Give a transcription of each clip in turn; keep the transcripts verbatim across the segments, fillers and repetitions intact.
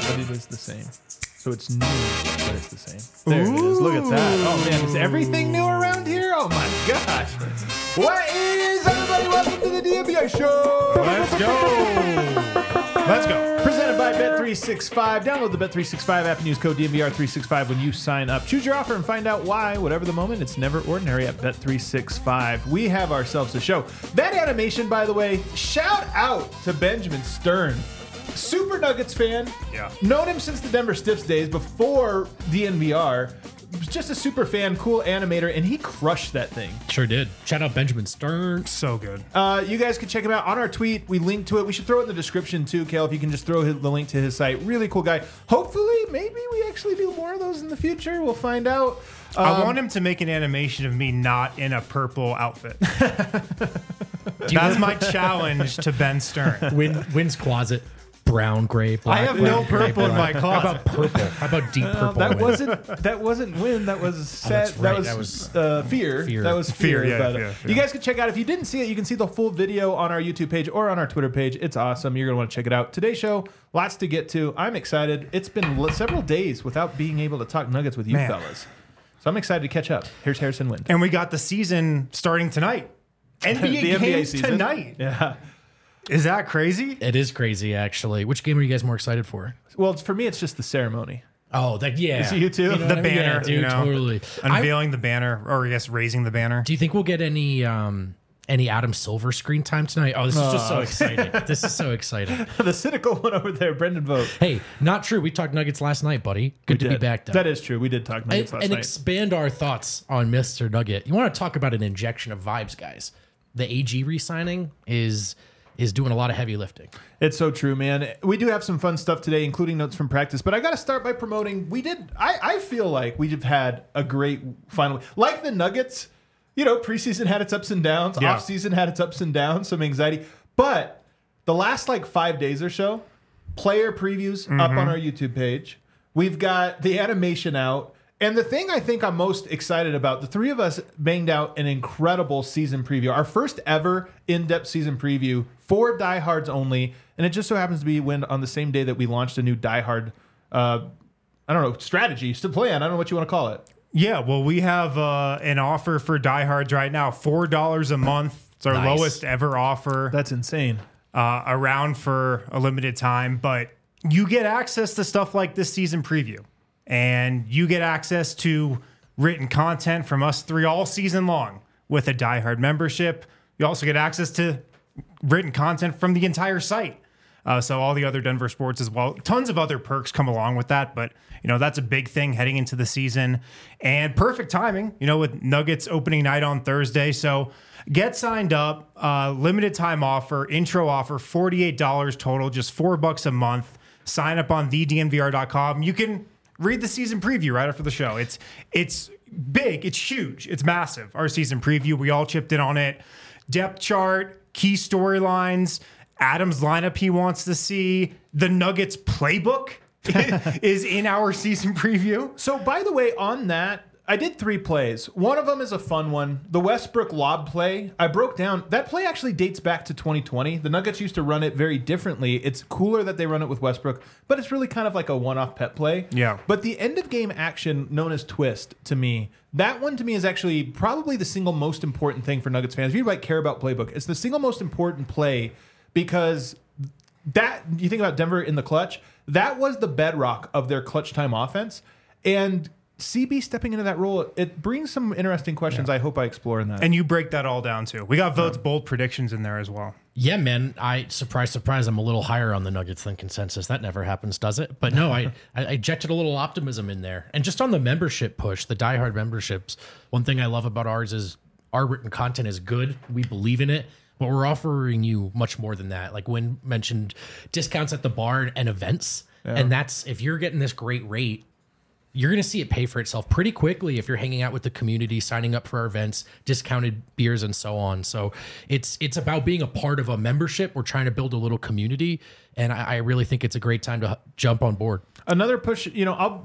but it is the same. So it's new, but it's the same. There Ooh. It is. Look at that. Oh, man. Is everything new around here? Oh, my gosh. What is, everybody? Welcome to the D N V R Show. Let's go. Let's go. Presented by Bet three sixty-five. Download the Bet three sixty-five app and use code D N V R three sixty-five when you sign up. Choose your offer and find out why, whatever the moment, it's never ordinary at Bet three sixty-five. We have ourselves a show. That animation, by the way, shout out to Benjamin Stern. Super Nuggets fan. Yeah. Known him since the Denver Stiffs days before D N V R. Just a super fan, cool animator, and he crushed that thing. Sure did. Shout out Benjamin Stern. So good. Uh, you guys can check him out on our tweet. We link to it. We should throw it in the description too, Kale, if you can just throw his, the link to his site. Really cool guy. Hopefully, maybe we actually do more of those in the future. We'll find out. Um, I want him to make an animation of me not in a purple outfit. That's my challenge to Ben Stern. Win, Win's closet. Brown, gray, black. I have no gray, purple in my black. closet. How about purple? How about deep purple? that Win? wasn't that wasn't win. That was set. Oh, right. That was, that was uh, fear. fear. That was fear. Fear, yeah, but, fear, uh, fear. You guys can check out if you didn't see it. You can see the full video on our YouTube page or on our Twitter page. It's awesome. You're gonna want to check it out. Today's show, lots to get to. I'm excited. It's been l- several days without being able to talk Nuggets with you Man. fellas, so I'm excited to catch up. Here's Harrison Wind. And we got the season starting tonight. N B A The N B A games season. tonight. Yeah. Is that crazy? It is crazy, actually. Which game are you guys more excited for? Well, it's, for me, it's just the ceremony. Oh, that yeah. Is it you too? know The what I mean? banner, yeah, dude, you know, totally. Unveiling the banner, or I guess raising the banner. I, do you think we'll get any um, any Adam Silver screen time tonight? Oh, this is just so exciting. This is so exciting. The cynical one over there, Brendan Vogt. Hey, not true. We talked Nuggets last night, buddy. Good to Did. be back, though. That is true. We did talk Nuggets and, last and night. expand our thoughts on Mister Nugget. You want to talk about an injection of vibes, guys? The A G re-signing is is doing a lot of heavy lifting. It's so true, man. We do have some fun stuff today, including notes from practice. But I got to start by promoting. We did. I, I feel like we've had a great final. Like the Nuggets, you know, preseason had its ups and downs. Yeah. Offseason had its ups and downs. Some anxiety. But the last like five days or so, player previews up on our YouTube page. We've got the animation out. And the thing I think I'm most excited about, the three of us banged out an incredible season preview. Our first ever in-depth season preview for diehards only. And it just so happens to be when on the same day that we launched a new diehard, uh, I don't know, strategy, to plan. I don't know what you want to call it. Yeah, well, we have uh, an offer for diehards right now, four dollars a month. It's our Nice. lowest ever offer. That's insane. uh, around for a limited time, but you get access to stuff like this season preview, and you get access to written content from us three all season long with a diehard membership. You also get access to written content from the entire site. Uh, so all the other Denver sports as well. Tons of other perks come along with that, but you know that's a big thing heading into the season, and perfect timing. You know, with Nuggets opening night on Thursday, so get signed up. Uh, limited time offer, intro offer, forty-eight dollars total, just four bucks a month. Sign up on the D N V R dot com. You can read the season preview right after the show. It's it's big, it's huge, it's massive. Our season preview, we all chipped in on it. Depth chart, key storylines. Adam's lineup he wants to see. The Nuggets playbook is in our season preview. So, by the way, on that, I did three plays. One of them is a fun one. The Westbrook lob play, I broke down. That play actually dates back to twenty twenty. The Nuggets used to run it very differently. It's cooler that they run it with Westbrook, but it's really kind of like a one-off pet play. Yeah. But the end-of-game action known as twist, to me, that one to me is actually probably the single most important thing for Nuggets fans. If you might care about playbook, it's the single most important play because that, you think about Denver in the clutch, that was the bedrock of their clutch time offense. And C B stepping into that role, it brings some interesting questions. I hope I explore in that. And you break that all down too. We got Vote's bold predictions in there as well. Yeah, man. I surprise, surprise. I'm a little higher on the Nuggets than consensus. That never happens, does it? But no, I, I injected a little optimism in there. And just on the membership push, the diehard memberships, one thing I love about ours is our written content is good. We believe in it, but we're offering you much more than that. Like Wynn mentioned, discounts at the bar and events. Yeah. And that's, if you're getting this great rate, you're going to see it pay for itself pretty quickly if you're hanging out with the community, signing up for our events, discounted beers, and so on. So it's it's about being a part of a membership. We're trying to build a little community, and I, I really think it's a great time to jump on board. Another push, you know, I'll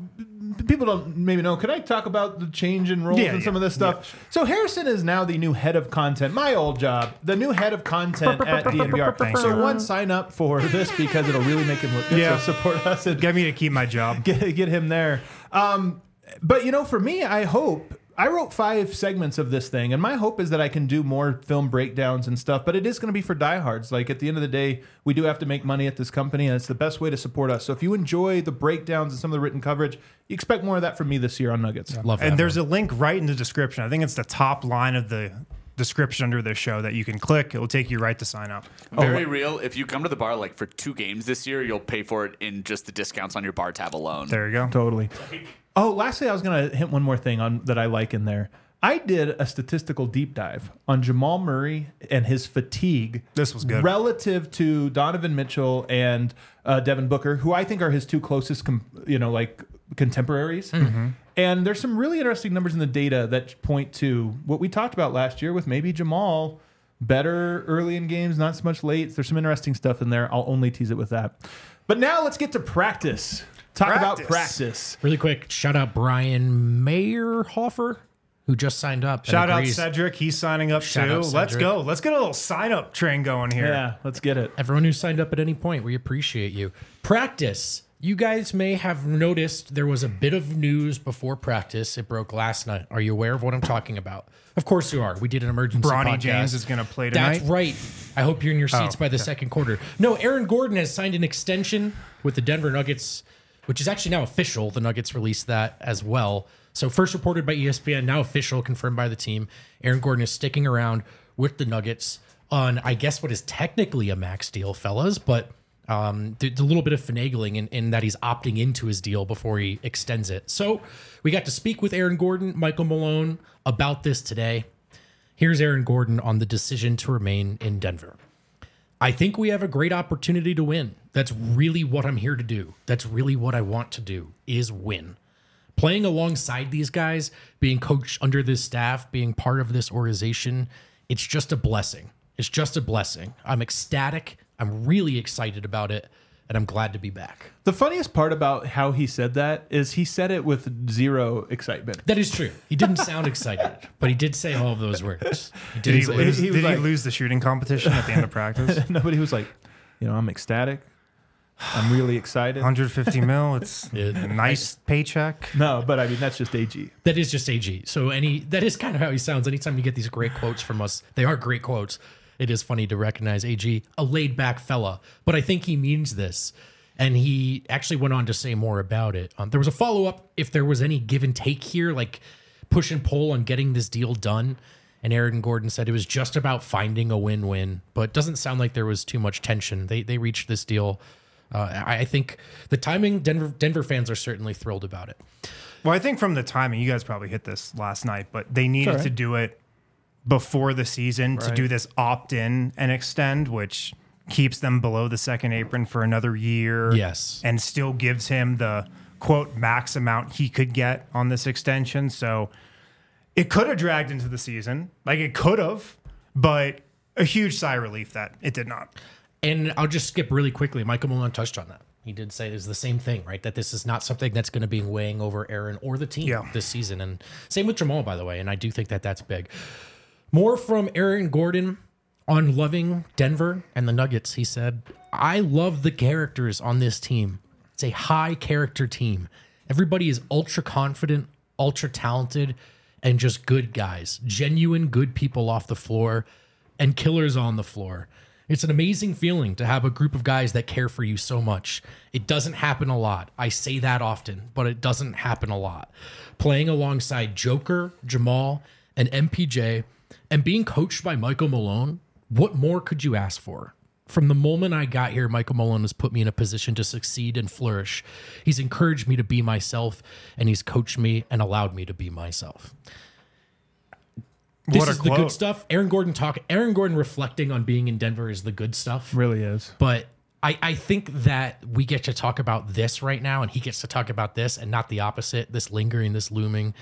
people don't maybe know. Could I talk about the change in roles Yeah, and some yeah, of this stuff? yeah, sure. So Harrison is now the new head of content. My old job, the new head of content at D N V R. Thanks, So sir. one, sign up for this because it'll really make him look good. Yeah. So support us and Get me to keep my job. get, get him there. Um, but you know, for me, I hope I wrote five segments of this thing, and my hope is that I can do more film breakdowns and stuff. But it is going to be for diehards. Like at the end of the day, we do have to make money at this company, and it's the best way to support us. So if you enjoy the breakdowns and some of the written coverage, you expect more of that from me this year on Nuggets. Love that. And there's a link right in the description. I think it's the top line of the description under this show that you can click. It will take you right to sign up. Very real. If you come to the bar like for two games this year, you'll pay for it in just the discounts on your bar tab alone. There you go. Totally. Oh, lastly, I was going to hit one more thing on that I like in there. I did a statistical deep dive on Jamal Murray and his fatigue. This was good. Relative to Donovan Mitchell and uh, Devin Booker, who I think are his two closest, com- you know, like contemporaries. Mm-hmm. And there's some really interesting numbers in the data that point to what we talked about last year with maybe Jamal better early in games, not so much late. There's some interesting stuff in there. I'll only tease it with that. But now let's get to practice. Talk about Practice. practice. Really quick, shout out Brian Mayerhofer, who just signed up. and Shout out agrees. Cedric. He's signing up Shout too. out Let's Cedric. go. Let's get a little sign up train going here. Yeah, let's get it. Everyone who signed up at any point, we appreciate you. Practice. You guys may have noticed there was a bit of news before practice. It broke last night. Are you aware of what I'm talking about? Of course you are. We did an emergency Bronny podcast. James is going to play tonight. That's right. I hope you're in your seats Oh, by the okay. second quarter. No, Aaron Gordon has signed an extension with the Denver Nuggets, which is actually now official. The Nuggets released that as well. So first reported by E S P N, now official, confirmed by the team. Aaron Gordon is sticking around with the Nuggets on, I guess, what is technically a max deal, fellas, but um, there's a little bit of finagling in, in that he's opting into his deal before he extends it. So we got to speak with Aaron Gordon, Michael Malone, about this today. Here's Aaron Gordon on the decision to remain in Denver. I think we have a great opportunity to win. That's really what I'm here to do. That's really what I want to do, is win. Playing alongside these guys, being coached under this staff, being part of this organization, it's just a blessing. It's just a blessing. I'm ecstatic. I'm really excited about it, and I'm glad to be back. The funniest part about how he said that is he said it with zero excitement. That is true. He didn't sound excited, but he did say all of those words. He Did he, say- lose, he was did like- he lose the shooting competition at the end of practice? Nobody was like, you know, I'm ecstatic. I'm really excited. one hundred fifty mil. It's Yeah. a nice paycheck. No, but I mean, that's just A G. That is just A G. So any that is kind of how he sounds. Anytime you get these great quotes from us, they are great quotes. It is funny to recognize A G, a laid back fella, but I think he means this. And he actually went on to say more about it. Um, there was a follow up if there was any give and take here, like push and pull on getting this deal done. And Aaron Gordon said it was just about finding a win win, but it doesn't sound like there was too much tension. They they reached this deal. Uh, I I think the timing, Denver Denver fans are certainly thrilled about it. Well, I think from the timing, you guys probably hit this last night, but they needed alright. to do it before the season to Right. do this opt in and extend, which keeps them below the second apron for another year. Yes. And still gives him the quote max amount he could get on this extension. So it could have dragged into the season. Like it could have, but a huge sigh of relief that it did not. And I'll just skip really quickly. Michael Malone touched on that. He did say it's the same thing, right? That this is not something that's going to be weighing over Aaron or the team Yeah. this season. And same with Jamal, by the way. And I do think that that's big. More from Aaron Gordon on loving Denver and the Nuggets. He said, I love the characters on this team. It's a high character team. Everybody is ultra confident, ultra talented, and just good guys. Genuine good people off the floor and killers on the floor. It's an amazing feeling to have a group of guys that care for you so much. It doesn't happen a lot. I say that often, but it doesn't happen a lot. Playing alongside Joker, Jamal, and M P J, and being coached by Michael Malone, what more could you ask for? From the moment I got here, Michael Malone has put me in a position to succeed and flourish. He's encouraged me to be myself, and he's coached me and allowed me to be myself. This What a is the good quote. stuff. Aaron Gordon talk. Aaron Gordon reflecting on being in Denver is the good stuff. Really is. But I, I think that we get to talk about this right now, and he gets to talk about this, and not the opposite. This lingering, this looming.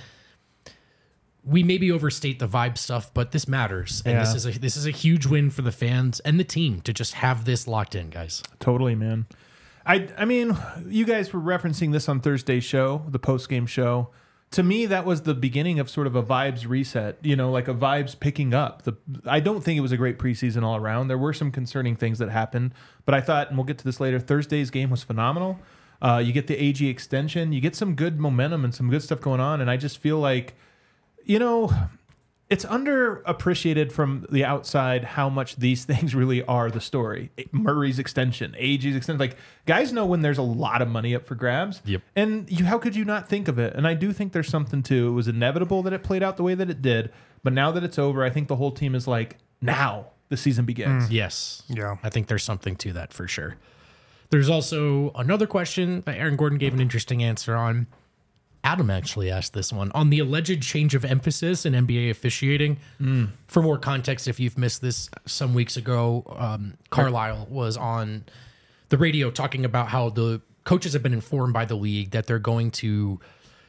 We maybe overstate the vibe stuff, but this matters, and this Yeah. is a this is a huge win for the fans and the team to just have this locked in, guys. Totally, man. I, I mean, you guys were referencing this on Thursday's show, the post-game show. To me, that was the beginning of sort of a vibes reset, you know, like a vibes picking up. The I don't think it was a great preseason all around. There were some concerning things that happened, but I thought, and we'll get to this later, Thursday's game was phenomenal. Uh, you get the A G extension, you get some good momentum and some good stuff going on, and I just feel like, you know, it's underappreciated from the outside how much these things really are the story. Murray's extension, A G's extension. Like, guys know when there's a lot of money up for grabs. Yep. And you, how could you not think of it? And I do think there's something to it. Was inevitable that it played out the way that it did. But now that it's over, I think the whole team is like, now the season begins. Yes. Yeah. I think there's something to that for sure. There's also another question that Aaron Gordon gave an interesting answer on. Adam actually asked this one on the alleged change of emphasis in N B A officiating. Mm. For more context, if you've missed this, some weeks ago, um, Carlisle was on the radio talking about how the coaches have been informed by the league that they're going to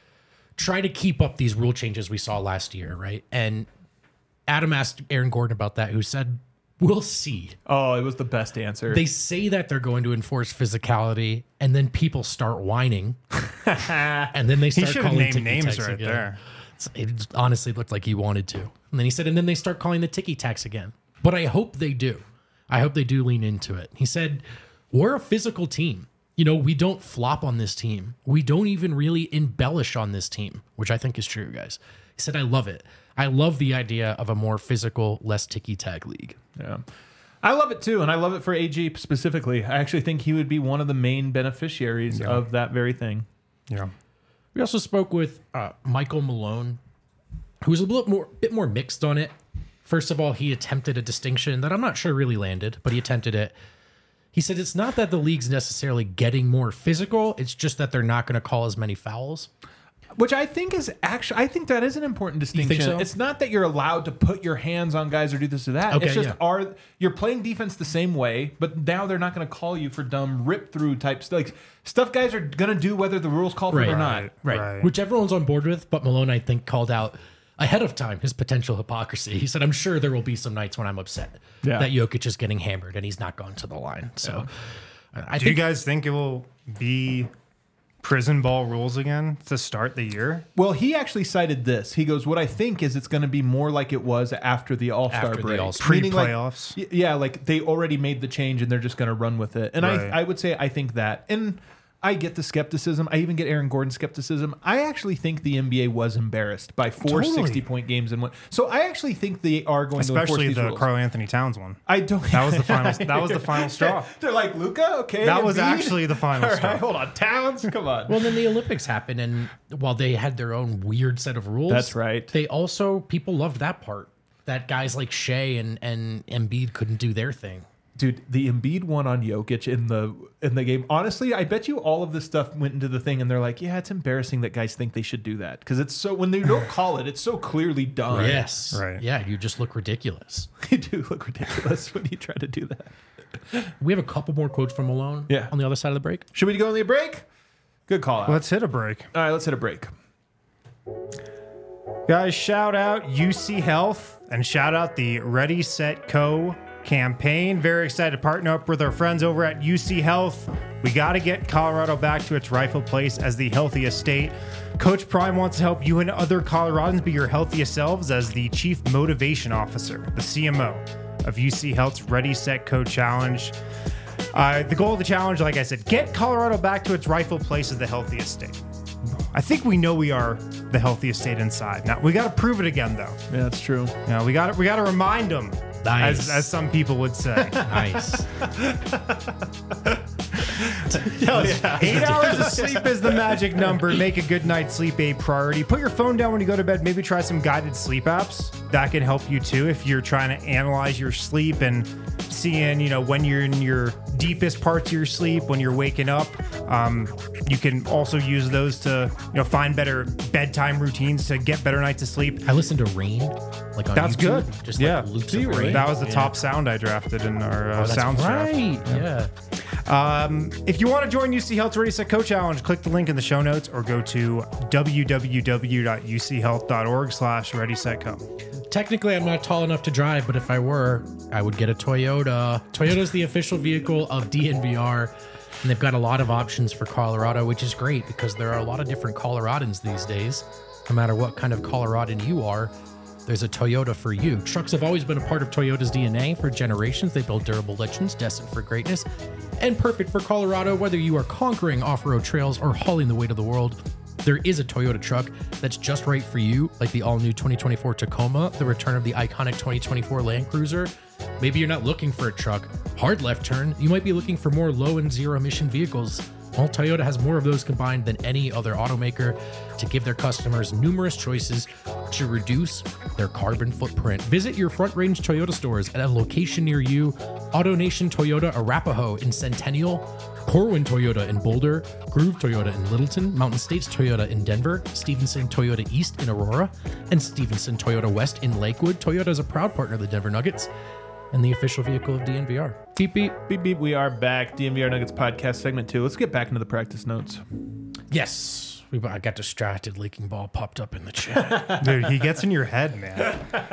try to keep up these rule changes we saw last year, right? And Adam asked Aaron Gordon about that, who said, we'll see. Oh, it was the best answer. They say that they're going to enforce physicality, and then people start whining, and then they He start should have calling named ticky names tacks right again. there. It honestly looked like he wanted to. And then he said, and then they start calling the ticky tacks again. But I hope they do. I hope they do lean into it. He said, we're a physical team. You know, we don't flop on this team. We don't even really embellish on this team, which I think is true, guys. He said, I love it. I love the idea of a more physical, less ticky-tack league. Yeah. I love it too, and I love it for A G specifically. I actually think he would be one of the main beneficiaries Yeah. of that very thing. Yeah. We also spoke with uh, Michael Malone, who was a little more, bit more mixed on it. First of all, he attempted a distinction that I'm not sure really landed, but he attempted it. He said it's not that the league's necessarily getting more physical, it's just that they're not going to call as many fouls. Which I think is actually, I think that is an important distinction. so? It's not that you're allowed to put your hands on guys or do this or that. Okay, it's just yeah. are you're playing defense the same way, but now they're not going to call you for dumb rip through type stuff. Like stuff guys are going to do whether the rules call for it or not. Right. Right. Right. Which everyone's on board with, but Malone, I think, called out ahead of time his potential hypocrisy. He said, I'm sure there will be some nights when I'm upset Yeah. that Jokic is getting hammered and he's not gone to the line. So I Do think you guys think it will be prison ball rules again to start the year? Well, he actually cited this. He goes, "What I think is it's going to be more like it was after the All Star After the break, All-Star- Meaning, like, Pre-playoffs? y- yeah, like they already made the change and they're just going to run with it." And Right. I, I would say I think that, and I get the skepticism. I even get Aaron Gordon's skepticism. I actually think the N B A was embarrassed by four Totally. sixty-point games in one. So I actually think they are going to enforce Especially these the rules. Karl Anthony Towns one. I don't. That was the final. That was the final straw. They're like Luca. Okay, That was Embiid? actually the final All straw. right, hold on, Towns. Come on. Well, then the Olympics happened, and while they had their own weird set of rules, That's right. They also people loved that part. That guys like Shea and and Embiid couldn't do their thing. Dude, the Embiid one on Jokic in the in the game. Honestly, I bet you all of this stuff went into the thing, and they're like, "Yeah, it's embarrassing that guys think they should do that because it's so when they don't call it, it's so clearly done." Yes, Right. Yeah, you just look ridiculous. You do look ridiculous when you try to do that. We have a couple more quotes from Malone. Yeah. On the other side of the break. Should we go on the break? Good call out. Let's hit a break. All right, let's hit a break. Guys, shout out U C Health and shout out the Ready, Set, Co campaign. Very excited to partner up with our friends over at U C Health. We got to get Colorado back to its rightful place as the healthiest state. Coach Prime wants to help you and other Coloradans be your healthiest selves as the Chief Motivation Officer, the C M O of U C Health's Ready, Set, Co challenge. Uh, the goal of the challenge, like I said, get Colorado back to its rightful place as the healthiest state. I think we know we are the healthiest state inside. Now we got to prove it again, though. Yeah, that's true. You know, we got we got to remind them, Nice. as as some people would say. Nice. Hell yeah. Eight hours of sleep is the magic number. Make a good night's sleep a priority. Put your phone down when you go to bed. Maybe try some guided sleep apps. That can help you too if you're trying to analyze your sleep and seeing, you know, when you're in your deepest parts of your sleep, when you're waking up. Um, you can also use those to, you know, find better bedtime routines to get better nights of sleep. I listened to Rain, like on That's YouTube. good. Just Yeah. like loops See, of Rain. Rain. That was the Yeah. top sound I drafted in our uh, Oh, that's sounds draft. right. Yeah. Um, if you want to join U C Health's Ready, Set, Co challenge, click the link in the show notes or go to w w w dot u c health dot org slash ready set co. Technically, I'm not tall enough to drive, but if I were, I would get a Toyota. Toyota's the official vehicle of D N V R. And they've got a lot of options for Colorado, which is great because there are a lot of different Coloradans these days. No matter what kind of Coloradan you are, there's a Toyota for you. Trucks have always been a part of Toyota's D N A for generations. They build durable legends destined for greatness and perfect for Colorado, whether you are conquering off-road trails or hauling the weight of the world. There is a Toyota truck that's just right for you, like the all-new twenty twenty-four Tacoma, the return of the iconic twenty twenty-four Land Cruiser. Maybe you're not looking for a truck, hard left turn. You might be looking for more low and zero emission vehicles. Well, Toyota has more of those combined than any other automaker to give their customers numerous choices to reduce their carbon footprint. Visit your Front Range Toyota stores at a location near you. AutoNation Toyota Arapahoe in Centennial, Corwin Toyota in Boulder, Groove Toyota in Littleton, Mountain States Toyota in Denver, Stevenson Toyota East in Aurora, and Stevenson Toyota West in Lakewood. Toyota is a proud partner of the Denver Nuggets and the official vehicle of D N V R. Beep, beep. Beep, beep. We are back. D N V R Nuggets podcast segment two. Let's get back into the practice notes. Yes. We, I got distracted. Leaking ball popped up in the chat. Dude, he gets in your head, man.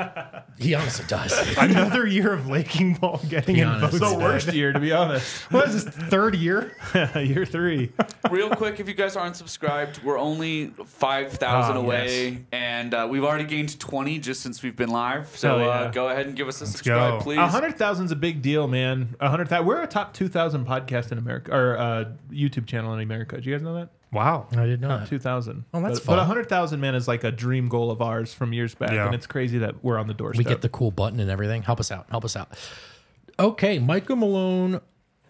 He honestly does. Another year of Laking Ball getting Be in honest. votes. The worst year, to be honest. What is this, third year? Year three. Real quick, if you guys aren't subscribed, we're only five thousand Oh, away, yes. and uh, we've already gained twenty just since we've been live. So Oh, yeah. uh, go ahead and give us a subscribe, go. please. A hundred thousand is a big deal, man. A hundred thousand. We're a top two thousand podcast in America, or uh, YouTube channel in America. Do you guys know that? Wow. I didn't know Top that. two thousand. Oh, that's but, fun. But a hundred thousand, man, is like a dream goal of ours from years back, Yeah. and it's crazy that we're on the doorstep. We get the cool button and everything. Help us out. Help us out. Okay, Micah Malone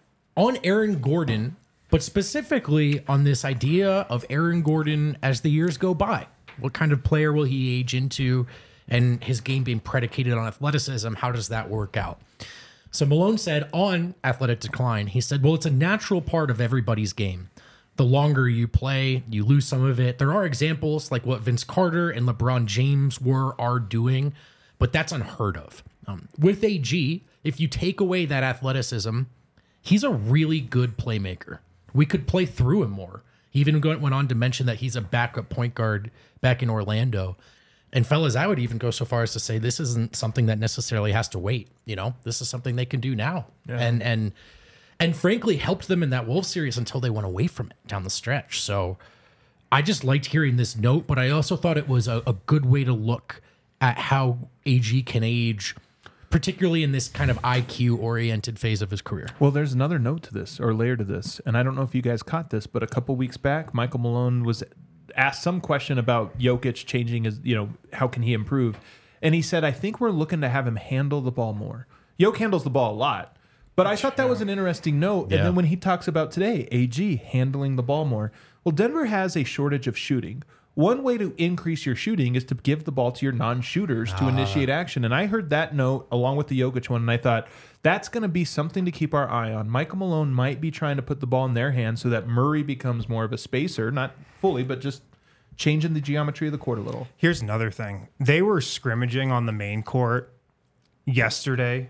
on Aaron Gordon, but specifically on this idea of Aaron Gordon as the years go by. What kind of player will he age into? And his game being predicated on athleticism, how does that work out? So Malone said on Athletic Decline, he said, well, it's a natural part of everybody's game. The longer you play, you lose some of it. There are examples like what Vince Carter and LeBron James were, are doing, but that's unheard of. Um, with A G, if you take away that athleticism, he's a really good playmaker. We could play through him more. He even went on to mention that he's a backup point guard back in Orlando. And fellas, I would even go so far as to say this isn't something that necessarily has to wait. You know, this is something they can do now. Yeah. And, and, and frankly, helped them in that Wolves series until they went away from it down the stretch. So I just liked hearing this note, but I also thought it was a, a good way to look at how A G can age, particularly in this kind of I Q-oriented phase of his career. Well, there's another note to this, or layer to this, and I don't know if you guys caught this, but a couple weeks back, Michael Malone was asked some question about Jokic changing his, you know, how can he improve? And he said, I think we're looking to have him handle the ball more. Jokic handles the ball a lot. But I thought that was an interesting note. Yeah. And then when he talks about today, A G handling the ball more. Well, Denver has a shortage of shooting. One way to increase your shooting is to give the ball to your non-shooters to initiate action. And I heard that note along with the Jokic one, and I thought that's going to be something to keep our eye on. Michael Malone might be trying to put the ball in their hands so that Murray becomes more of a spacer, not fully, but just changing the geometry of the court a little. Here's another thing. They were scrimmaging on the main court yesterday,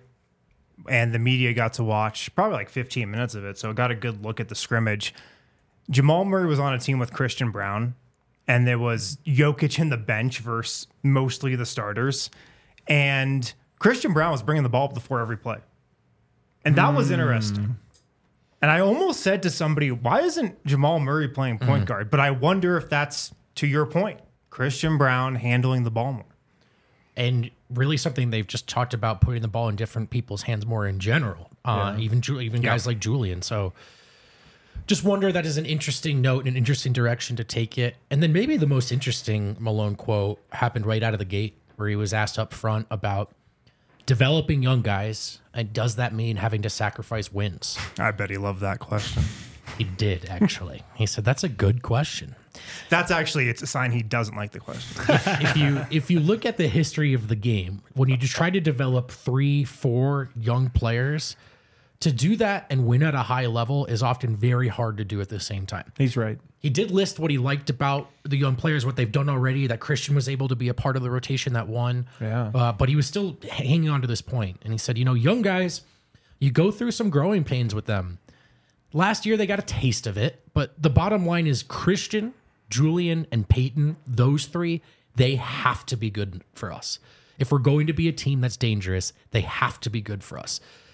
and the media got to watch probably like fifteen minutes of it, so got a good look at the scrimmage. Jamal Murray was on a team with Christian Brown, and there was Jokic in the bench versus mostly the starters. And Christian Brown was bringing the ball up the floor every play. And that was interesting. And I almost said to somebody, why isn't Jamal Murray playing point guard? But I wonder if that's to your point. Christian Brown handling the ball more. And really something they've just talked about, putting the ball in different people's hands more in general. Uh, Yeah. Even Ju- even Yeah. guys like Julian. So just wonder, that is an interesting note and an interesting direction to take it. And then maybe the most interesting Malone quote happened right out of the gate, where he was asked up front about developing young guys, and does that mean having to sacrifice wins? I bet he loved that question. He did, actually. He said, that's a good question. That's actually, it's a sign he doesn't like the question. If you if you look at the history of the game, when you just try to develop three, four young players, to do that and win at a high level is often very hard to do at the same time. He's right. He did list what he liked about the young players, what they've done already, that Christian was able to be a part of the rotation that won. Yeah. Uh, but he was still hanging on to this point. And he said, you know, young guys, you go through some growing pains with them. Last year, they got a taste of it. But the bottom line is Christian, Julian, and Peyton, those three, they have to be good for us. If we're going to be a team that's dangerous, they have to be good for us.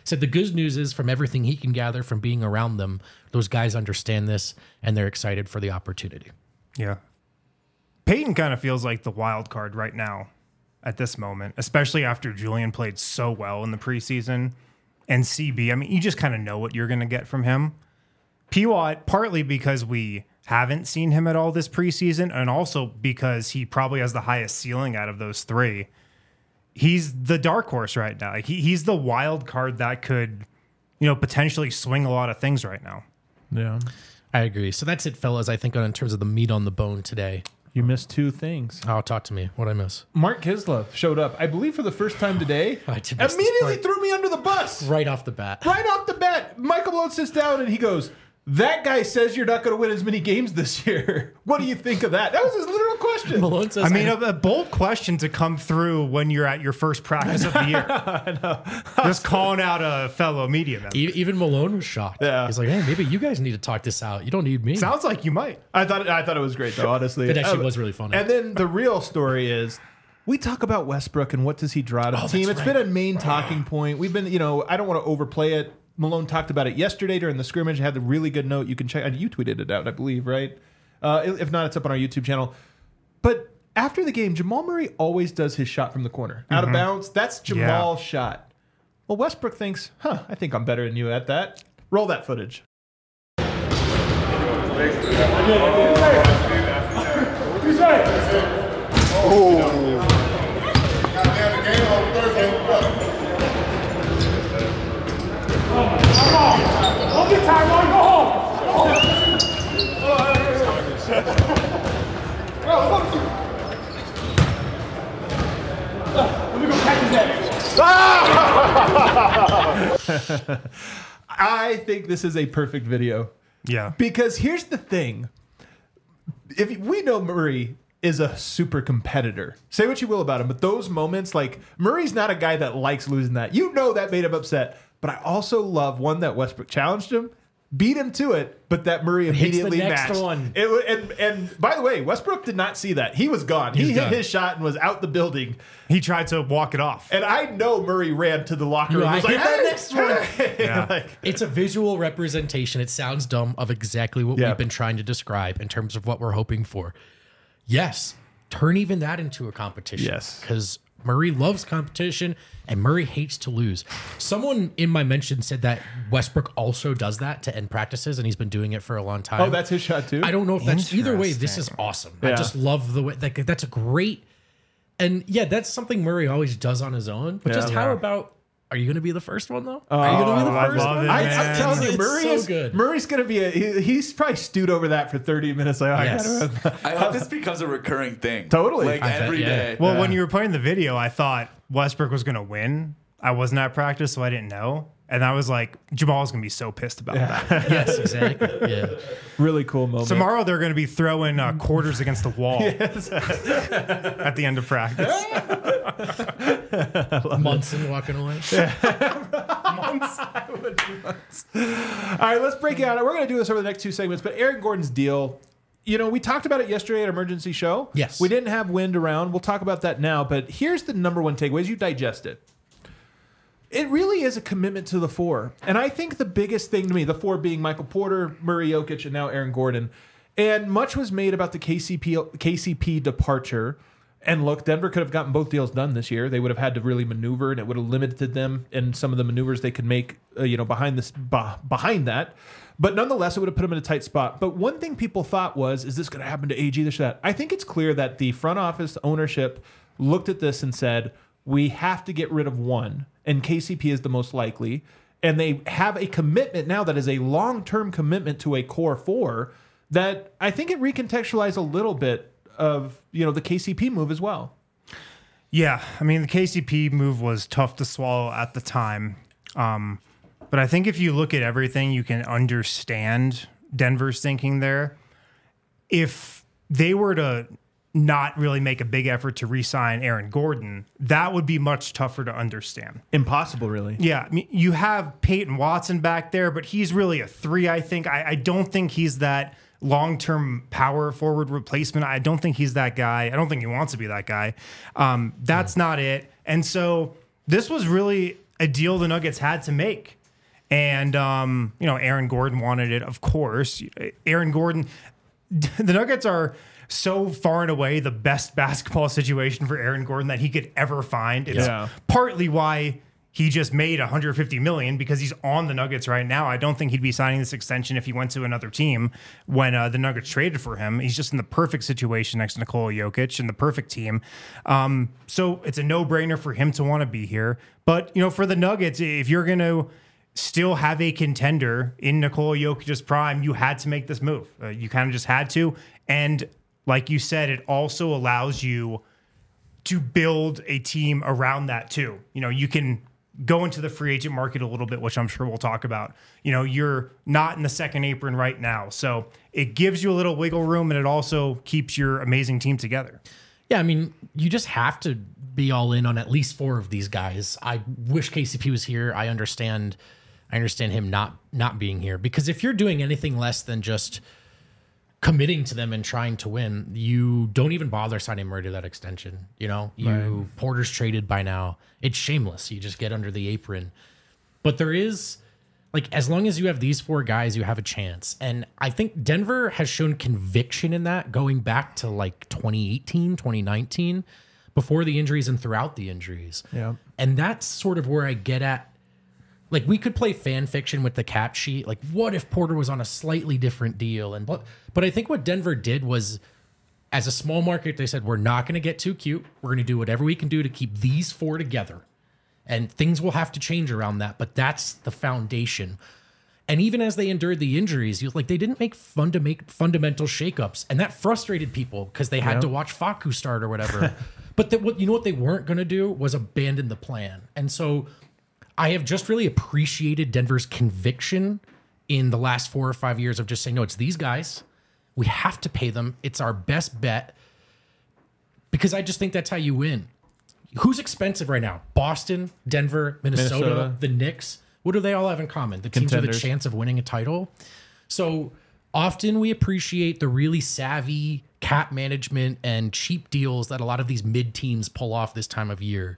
said the good news is from everything he can gather from being around them, those guys understand this and they're excited for the opportunity. Yeah. Peyton kind of feels like the wild card right now at this moment, especially after Julian played so well in the preseason. And C B, I mean, you just kind of know what you're going to get from him. P W A T, partly because we haven't seen him at all this preseason, and also because he probably has the highest ceiling out of those three. He's the dark horse right now. Like he, he's the wild card that could, you know, potentially swing a lot of things right now. Yeah. I agree. So that's it, fellas, I think, in terms of the meat on the bone today. You missed two things. Oh, talk to me. What'd I miss? Mark Kislev showed up, I believe, for the first time today. I did miss this Immediately part. threw me under the bus. Right off the bat. Right off the bat, Michael Malone sits down and he goes, that guy says you're not going to win as many games this year. What do you think of that? That was his literal question. Malone says, I mean, a, a bold question to come through when you're at your first practice of the year. I know. Just calling out a fellow media member. E- Even Malone was shocked. Yeah. He's like, hey, maybe you guys need to talk this out. You don't need me. Sounds like you might. I thought I thought it was great though, honestly. It actually Uh, was really funny. And then the real story is we talk about Westbrook and what does he draw to the Oh, team. that's It's right. been a main talking point. We've been, you know, I don't want to overplay it. Malone talked about it yesterday during the scrimmage. Had the really good note. You can check. You tweeted it out, I believe, right? Uh, if not, it's up on our YouTube channel. But after the game, Jamal Murray always does his shot from the corner, out of bounds. That's Jamal's shot. Well, Westbrook thinks, huh, I think I'm better than you at that. Roll that footage. I think this is a perfect video. Yeah. Because here's the thing. If we know Murray is a super competitor, say what you will about him, but those moments, like Murray's not a guy that likes losing that. You know that made him upset. But I also love one that Westbrook challenged him, beat him to it, but that Murray Hits the immediately next matched. one. It, wa- and, and by the way, Westbrook did not see that. He was gone. He He's hit done. his shot and was out the building. He tried to walk it off. And I know Murray ran to the locker room. Yeah, and was I like, hit that "Hey, next one." hey." Yeah. Like, It's a visual representation. It sounds dumb of exactly what Yeah. we've been trying to describe in terms of what we're hoping for. Yes, turn even that into a competition. Yes. Because Murray loves competition and Murray hates to lose. Someone in my mention said that Westbrook also does that to end practices, and he's been doing it for a long time. oh, that's his shot too? I don't know if that's either way. This is Interesting. awesome. I Yeah. just love the way like that's a great, and yeah, that's something Murray always does on his own. But Yeah. just how Yeah. about? Are you going to be the first one though? are you going to be the I first love one? it, I, man. I'm telling you, It's Murray so is good. Murray's going to be a. He, he's probably stewed over that for thirty minutes. Like, oh, Yes. I gotta, I hope this becomes a recurring thing. Totally. Like I bet, every yeah. day. Well, when you were playing the video, I thought Westbrook was going to win. I wasn't at practice, so I didn't know. And I was like, Jamal's going to be so pissed about that. Yes, exactly. Yeah. really cool moment. Tomorrow, they're going to be throwing uh, quarters against the wall at the end of practice. Munson walking away. All right, let's break it out. We're going to do this over the next two segments, but Aaron Gordon's deal. You know, we talked about it yesterday at Emergency Show. Yes. We didn't have wind around. We'll talk about that now. But here's the number one takeaway as you digest it. It really is a commitment to the four. And I think the biggest thing to me, the four being Michael Porter, Murray Jokic, and now Aaron Gordon. And much was made about the K C P K C P departure. And look, Denver could have gotten both deals done this year. They would have had to really maneuver, and it would have limited them in some of the maneuvers they could make, uh, you know, behind this bah, behind that. But nonetheless, it would have put them in a tight spot. But one thing people thought was, is this going to happen to A G? This or that? I think it's clear that the front office ownership looked at this and said, we have to get rid of one, and K C P is the most likely. And they have a commitment now that is a long-term commitment to a core four that I think it recontextualized a little bit of, you know, the K C P move as well. Yeah, I mean, the K C P move was tough to swallow at the time. Um, but I think if you look at everything, you can understand Denver's thinking there. If they were to not really make a big effort to re-sign Aaron Gordon, that would be much tougher to understand. Impossible, really. Yeah, I mean, you have Peyton Watson back there, but he's really a three, I think. I, I don't think he's that long-term power forward replacement. I don't think he's that guy. I don't think he wants to be that guy. Um, that's not it. And so this was really a deal the Nuggets had to make. And, um, you know, Aaron Gordon wanted it, of course. Aaron Gordon, the Nuggets are so far and away the best basketball situation for Aaron Gordon that he could ever find. It's Yeah. partly why he just made one hundred fifty million dollars because he's on the Nuggets right now. I don't think he'd be signing this extension if he went to another team when uh, the Nuggets traded for him. He's just in the perfect situation next to Nikola Jokic and the perfect team. Um, so it's a no-brainer for him to want to be here. But, you know, for the Nuggets, if you're going to still have a contender in Nikola Jokic's prime, you had to make this move. Uh, you kind of just had to. And like you said, it also allows you to build a team around that too. You know, you can go into the free agent market a little bit, which I'm sure we'll talk about. You know, you're not in the second apron right now. So it gives you a little wiggle room, and it also keeps your amazing team together. Yeah, I mean, you just have to be all in on at least four of these guys. I wish K C P was here. I understand I understand him not not being here, because if you're doing anything less than just committing to them and trying to win, you don't even bother signing Murray to that extension. You know, you right. Porter's traded by now. It's shameless. You just get under the apron. But there is, like, as long as you have these four guys, you have a chance. And I think Denver has shown conviction in that going back to like twenty eighteen, twenty nineteen, before the injuries and throughout the injuries. Yeah. And that's sort of where I get at. Like, we could play fan fiction with the cap sheet. Like, what if Porter was on a slightly different deal? And but, but I think what Denver did was, as a small market, they said, we're not going to get too cute. We're going to do whatever we can do to keep these four together. And things will have to change around that, but that's the foundation. And even as they endured the injuries, you like they didn't make fun to make fundamental shakeups, and that frustrated people because they had yeah. to watch Facu start or whatever. But the, what you know what they weren't going to do was abandon the plan. And so I have just really appreciated Denver's conviction in the last four or five years of just saying, no, it's these guys. We have to pay them. It's our best bet, because I just think that's how you win. Who's expensive right now? Boston, Denver, Minnesota, Minnesota. the Knicks. What do they all have in common? The teams Contenders. with a chance of winning a title. So often we appreciate the really savvy cap management and cheap deals that a lot of these mid teams pull off this time of year.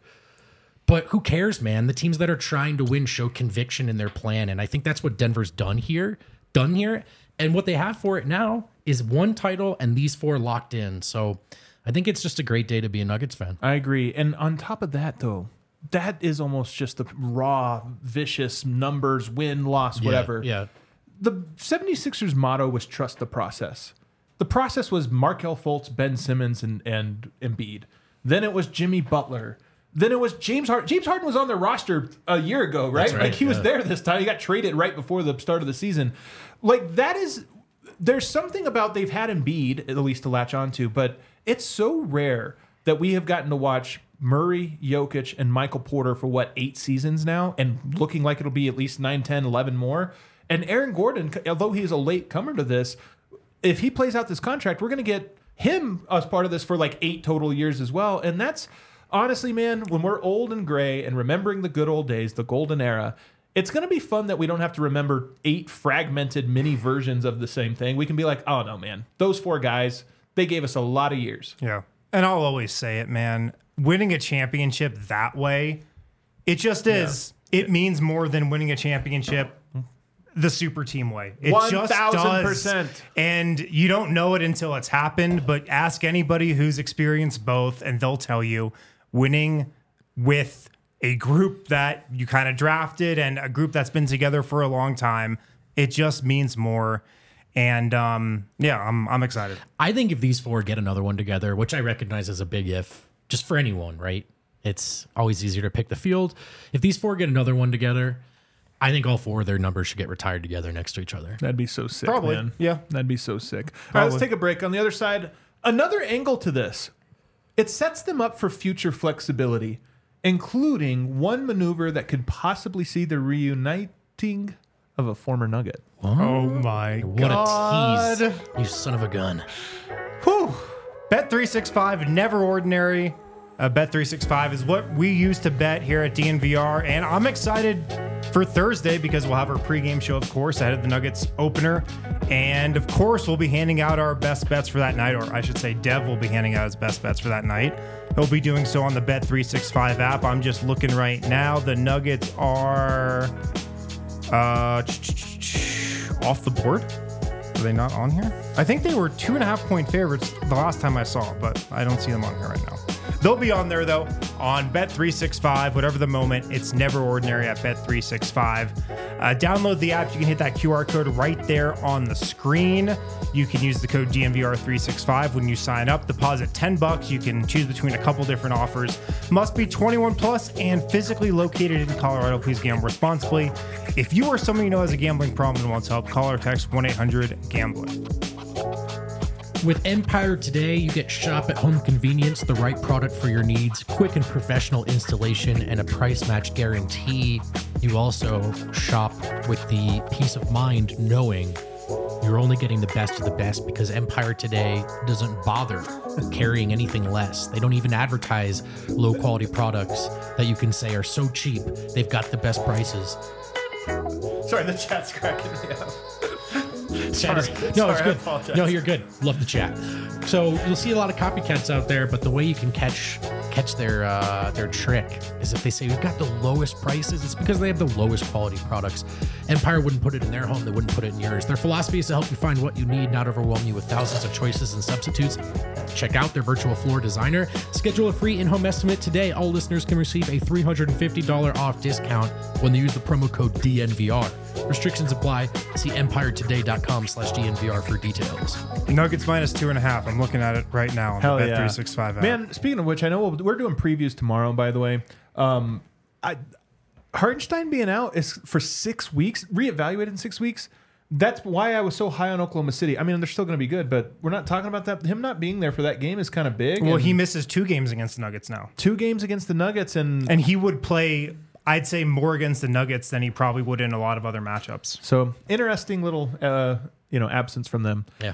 But who cares, man? The teams that are trying to win show conviction in their plan. And I think that's what Denver's done here, done here. And what they have for it now is one title and these four locked in. So I think it's just a great day to be a Nuggets fan. I agree. And on top of that, though, that is almost just the raw, vicious numbers, win, loss, whatever. Yeah. yeah. The seventy-sixers motto was trust the process. The process was Markelle Fultz, Ben Simmons, and, and Embiid. Then it was Jimmy Butler. Then it was James Harden. James Harden was on their roster a year ago, right? right, Like he was yeah. there this time. He got traded right before the start of the season. Like that is, there's something about they've had Embiid, at least to latch onto, but it's so rare that we have gotten to watch Murray, Jokic, and Michael Porter for what, eight seasons now, and looking like it'll be at least nine, ten, eleven more. And Aaron Gordon, although he is a late comer to this, if he plays out this contract, we're going to get him as part of this for like eight total years as well. And that's honestly, man, when we're old and gray and remembering the good old days, the golden era, it's going to be fun that we don't have to remember eight fragmented mini versions of the same thing. We can be like, oh no, man, those four guys, they gave us a lot of years. Yeah. And I'll always say it, man. Winning a championship that way, it just is. Yeah. It means more than winning a championship the super team way. It just does. And you don't know it until it's happened, but ask anybody who's experienced both, and they'll tell you winning with a group that you kind of drafted and a group that's been together for a long time, it just means more. And um, yeah, I'm I'm excited. I think if these four get another one together, which I recognize as a big if, just for anyone, right? It's always easier to pick the field. If these four get another one together, I think all four of their numbers should get retired together next to each other. That'd be so sick, Probably. man. Yeah. That'd be so sick. All right, let's take a break. On the other side, another angle to this. It sets them up for future flexibility, including one maneuver that could possibly see the reuniting of a former Nugget. Oh my What God. a tease. You son of a gun. Whew. Bet three sixty-five, never ordinary. Uh, Bet three sixty-five is what we use to bet here at D N V R, and I'm excited for Thursday because we'll have our pregame show, of course, ahead of the Nuggets opener, and of course we'll be handing out our best bets for that night, or I should say Dev will be handing out his best bets for that night. He'll be doing so on the Bet three sixty-five app. I'm just looking right now. The Nuggets are uh, off the board. Are they not on here? I think they were two and a half point favorites the last time I saw, but I don't see them on here right now. They'll be on there, though, on Bet three sixty-five, whatever the moment. It's never ordinary at Bet three sixty-five. Uh, download the app. You can hit that Q R code right there on the screen. You can use the code D N V R three sixty-five when you sign up. Deposit ten bucks. You can choose between a couple different offers. Must be twenty-one plus and physically located in Colorado. Please gamble responsibly. If you or someone you know has a gambling problem and wants help, call or text one eight hundred gambling. With Empire Today, you get shop at home convenience, the right product for your needs, quick and professional installation, and a price match guarantee. You also shop with the peace of mind knowing you're only getting the best of the best because Empire Today doesn't bother carrying anything less. They don't even advertise low quality products that you can say are so cheap. They've got the best prices. Sorry, the chat's cracking me up. Sorry. Sorry. No, it's Sorry, I good. apologize. No, you're good. Love the chat. So you'll see a lot of copycats out there, but the way you can catch catch their uh, their trick is if they say we've got the lowest prices. It's because they have the lowest quality products. Empire wouldn't put it in their home. They wouldn't put it in yours. Their philosophy is to help you find what you need, not overwhelm you with thousands of choices and substitutes. Check out their virtual floor designer. Schedule a free in-home estimate today. All listeners can receive a three hundred fifty dollars off discount when they use the promo code D N V R. Restrictions apply. See empire today dot com slash D N V R for details. Nuggets minus two and a half. I'm looking at it right now on Hell the Bet yeah. three sixty-five app. Man, speaking of which, I know we'll, we're doing previews tomorrow, by the way. Um, I, Hartenstein being out is for six weeks, reevaluated in six weeks. That's why I was so high on Oklahoma City. I mean, they're still going to be good, but we're not talking about that. Him not being there for that game is kind of big. Well, and he misses two games against the Nuggets now. two games against the Nuggets, and, And he would play, I'd say, more against the Nuggets than he probably would in a lot of other matchups. so interesting little uh, you know absence from them. Yeah.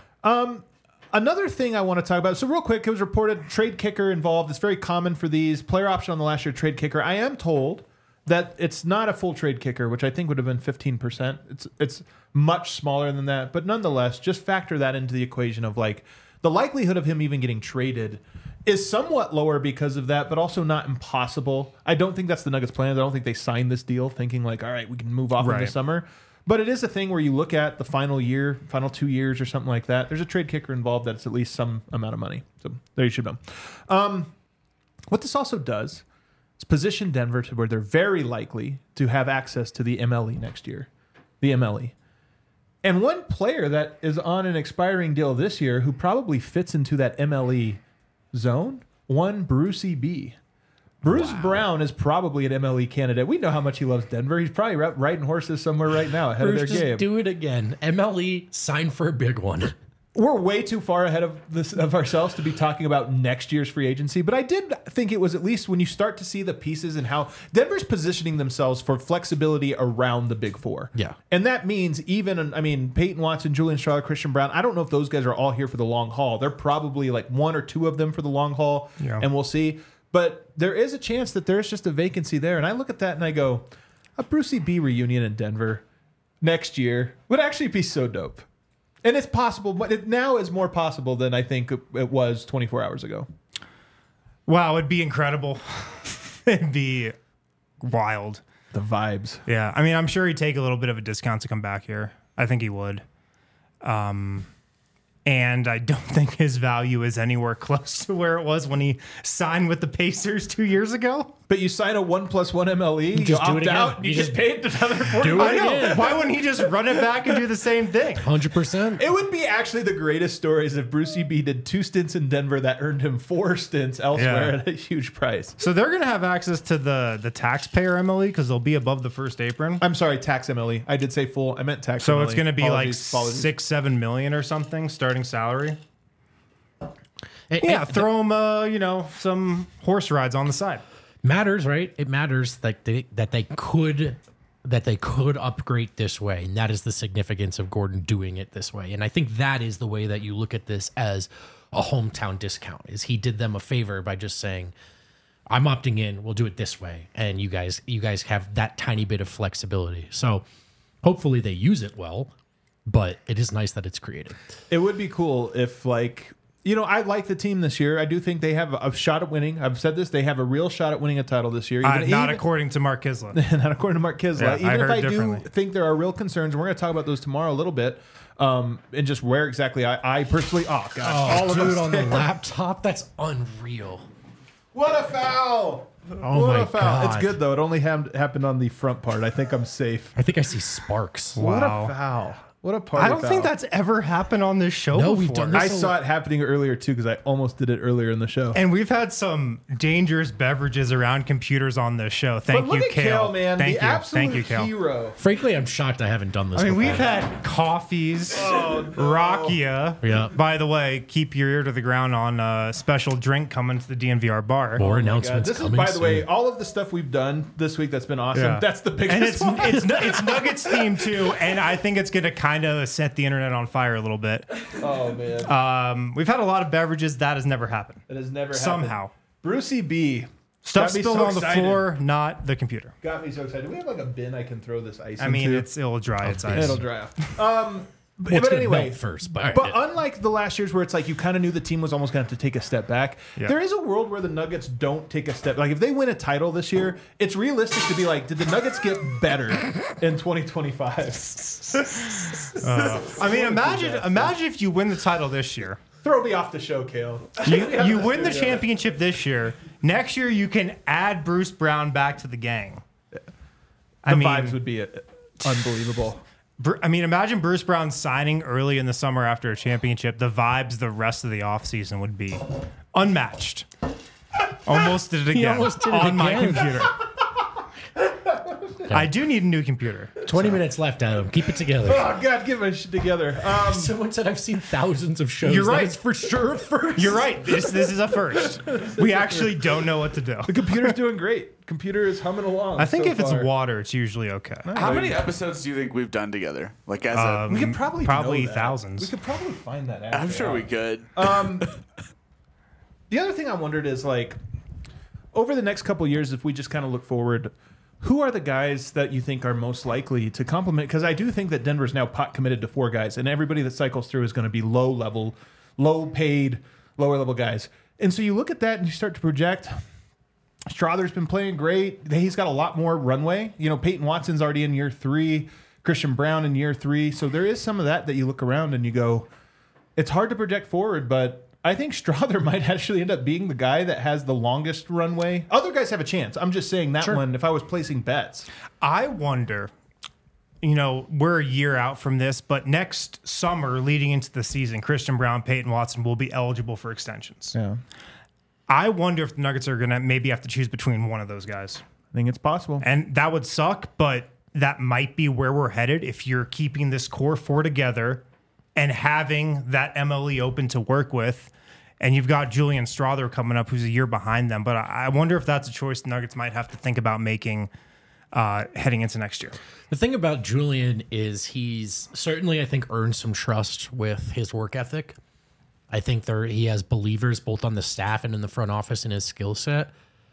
Another thing I want to talk about. So real quick, it was reported trade kicker involved. It's very common for these player option on the last year trade kicker. I am told that it's not a full trade kicker, which I think would have been fifteen percent. It's it's much smaller than that, but nonetheless, just factor that into the equation of like the likelihood of him even getting traded is somewhat lower because of that, but also not impossible. I don't think that's the Nuggets' plan. I don't think they signed this deal thinking like, all right, we can move off in Right. the summer. But it is a thing where you look at the final year, final two years or something like that. There's a trade kicker involved that's at least some amount of money. So there you should know. Um, what this also does is position Denver to where they're very likely to have access to the M L E next year. The M L E. And one player that is on an expiring deal this year who probably fits into that M L E zone, one Brucey B. Bruce Brown is probably an M L E candidate. We know how much he loves Denver. He's probably ri- riding horses somewhere right now ahead Bruce, of their just game. do it again. M L E, sign for a big one. We're way too far ahead of this of ourselves to be talking about next year's free agency, but I did think it was at least when you start to see the pieces and how Denver's positioning themselves for flexibility around the big four. Yeah. And that means even, I mean, Peyton Watson, Julian Strawler, Christian Brown, I don't know if those guys are all here for the long haul. They're probably like one or two of them for the long haul, Yeah. and we'll see. But there is a chance that there's just a vacancy there. And I look at that and I go, a Brucey B reunion in Denver next year would actually be so dope. And it's possible, but it now is more possible than I think it was twenty-four hours ago. Wow, it'd be incredible. It'd be wild. The vibes. Yeah, I mean, I'm sure he'd take a little bit of a discount to come back here. I think he would. Um, and I don't think his value is anywhere close to where it was when he signed with the Pacers two years ago. But you sign a one plus one M L E, you, just do opt it again. out, and you, You just just paid another forty. do it I know. again. Why wouldn't he just run it back and do the same thing? one hundred percent. It would be actually the greatest stories if Brucey B did two stints in Denver that earned him four stints elsewhere Yeah. at a huge price. So they're going to have access to the, the taxpayer M L E because they'll be above the first apron. I'm sorry, tax M L E. I did say full. I meant tax So M L E. it's going to be Apologies, like apologies. six, seven million or something starting salary. It, Yeah, it throw him, uh, you know, some horse rides on the side. matters, right? It matters that they that they could that they could upgrade this way, and that is the significance of Gordon doing it this way. And I think that is the way that you look at this as a hometown discount. Is he did them a favor by just saying, "I'm opting in. We'll do it this way," and you guys you guys have that tiny bit of flexibility. So hopefully they use it well, but it is nice that it's created. It would be cool if, like, you know, I like the team this year. I do think they have a shot at winning. I've said this. They have a real shot at winning a title this year. Uh, Even, not even, according to Mark Kislett. not according to Mark Kislett. Yeah, even I if heard I do differently. think there are real concerns, and we're going to talk about those tomorrow a little bit, um, and just where exactly I, I personally, oh, gosh. Oh, all of dude, us. on the laptop? That's unreal. What a foul. Oh, what my a foul. God. It's good, though. It only ha- happened on the front part. I think I'm safe. I think I see sparks. What Wow. a foul. What a party I don't foul. think that's ever happened on this show No, before. we've done this I a saw it happening earlier, too, because I almost did it earlier in the show. And we've had some dangerous beverages around computers on this show. Thank but look you, at Kale. Kale, man. Thank the you. absolute Thank you, Kale. hero. Frankly, I'm shocked I haven't done this I mean, before. we've had coffees, Rakia. Yeah. By the way, keep your ear to the ground on a special drink coming to the D N V R bar. More God, announcements this is, coming by the soon. way, all of the stuff we've done this week that's been awesome. Yeah. That's the biggest And it's one. it's it's Nuggets themed too, and I think it's gonna kind of set the internet on fire a little bit. Oh, man. Um, we've had a lot of beverages that has never happened. It has never happened. Somehow, Brucey B. stuff got me spilled so on the excited. floor, not the computer. Got me so excited. Do we have like a bin I can throw this ice I into? mean, it's it'll dry its ice. It'll draft. Um, but, Well, it's but gonna anyway, melt first, but, but unlike the last years where it's like you kind of knew the team was almost going to have to take a step back, Yeah. there is a world where the Nuggets don't take a step. Like if they win a title this year, it's realistic to be like, did the Nuggets get better in twenty twenty-five? I mean, imagine imagine if you win the title this year. Throw me off the show, Kale. You, you win the championship this year. Next year, you can add Bruce Brown back to the gang. I The mean, vibes would be uh, unbelievable. Bru- I mean, imagine Bruce Brown signing early in the summer after a championship. The vibes the rest of the offseason would be unmatched. Almost did it again almost did it on my again. computer. I do need a new computer. twenty minutes left, Adam. Keep it together. Oh God, get my shit together. Um, Someone said I've seen thousands of shows. You're That right. is for sure a first. You're right. This this is a first. We actually don't know what to do. the computer's doing great. Computer is humming along. I think so if it's far. water, it's usually okay. How many episodes do you think we've done together? Like as a, Um, we could probably probably know that. thousands. We could probably find that out. I'm sure we could. Um, the other thing I wondered is like, over the next couple years, if we just kind of look forward, who are the guys that you think are most likely to complement? Because I do think that Denver's now pot committed to four guys, and everybody that cycles through is going to be low level, low paid, lower level guys. And so you look at that and you start to project. Strother's been playing great. He's got a lot more runway. You know, Peyton Watson's already in year three. Christian Brown in year three. So there is some of that that you look around and you go, it's hard to project forward, but I think Strother might actually end up being the guy that has the longest runway. Other guys have a chance. I'm just saying that one, if I was placing bets. I wonder, you know, we're a year out from this, but next summer, leading into the season, Christian Brown, Peyton Watson will be eligible for extensions. Yeah. I wonder if the Nuggets are going to maybe have to choose between one of those guys. I think it's possible. And that would suck, but that might be where we're headed if you're keeping this core four together and having that M L E open to work with. And you've got Julian Strother coming up, who's a year behind them. But I I wonder if that's a choice the Nuggets might have to think about making uh, heading into next year. The thing about Julian is he's certainly, I think, earned some trust with his work ethic. I think there he has believers both on the staff and in the front office in his skill set.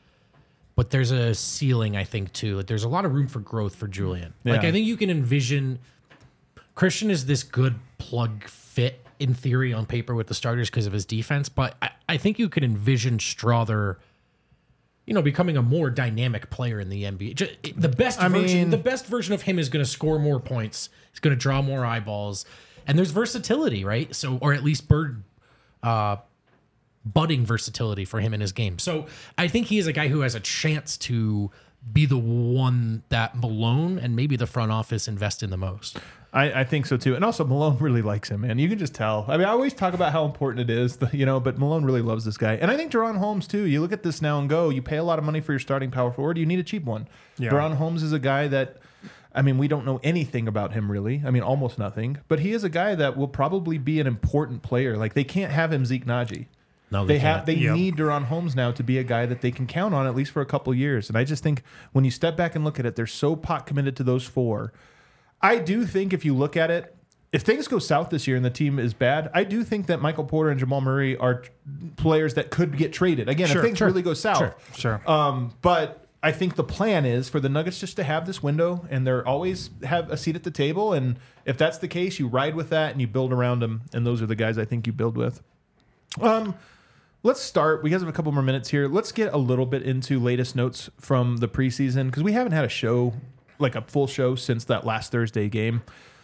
But there's a ceiling, I think, too. Like there's a lot of room for growth for Julian. Like Yeah. I think you can envision Christian is this good plug fit in theory on paper with the starters because of his defense, but I, I think you could envision Strother, you know, becoming a more dynamic player in the N B A. Just, the best I version, mean- the best version of him is going to score more points. He's going to draw more eyeballs, and there's versatility, right? So, or at least bird, uh, budding versatility for him in his game. So, I think he is a guy who has a chance to be the one that Malone and maybe the front office invest in the most. I, I think so too. And also Malone really likes him, man. You can just tell. I mean, I always talk about how important it is, you know, but Malone really loves this guy. And I think Deron Holmes too. You look at this now and go, you pay a lot of money for your starting power forward. You need a cheap one. Yeah. Deron Holmes is a guy that, I mean, we don't know anything about him really. I mean, almost nothing. But he is a guy that will probably be an important player. Like they can't have him Zeke Naji. No, They they, have can't. they Yep. need Deron Holmes now to be a guy that they can count on at least for a couple years. And I just think when you step back and look at it, they're so pot committed to those four. I do think if you look at it, if things go south this year and the team is bad, I do think that Michael Porter and Jamal Murray are t- players that could get traded. Again, Sure, if things sure, really go south. sure, sure. Um, but I think the plan is for the Nuggets just to have this window and they're always have a seat at the table. And if that's the case, you ride with that and you build around them. And those are the guys I think you build with. Um, let's start. We guys have a couple more minutes here. Let's get a little bit into latest notes from the preseason because we haven't had a show, like a full show, since that last Thursday game.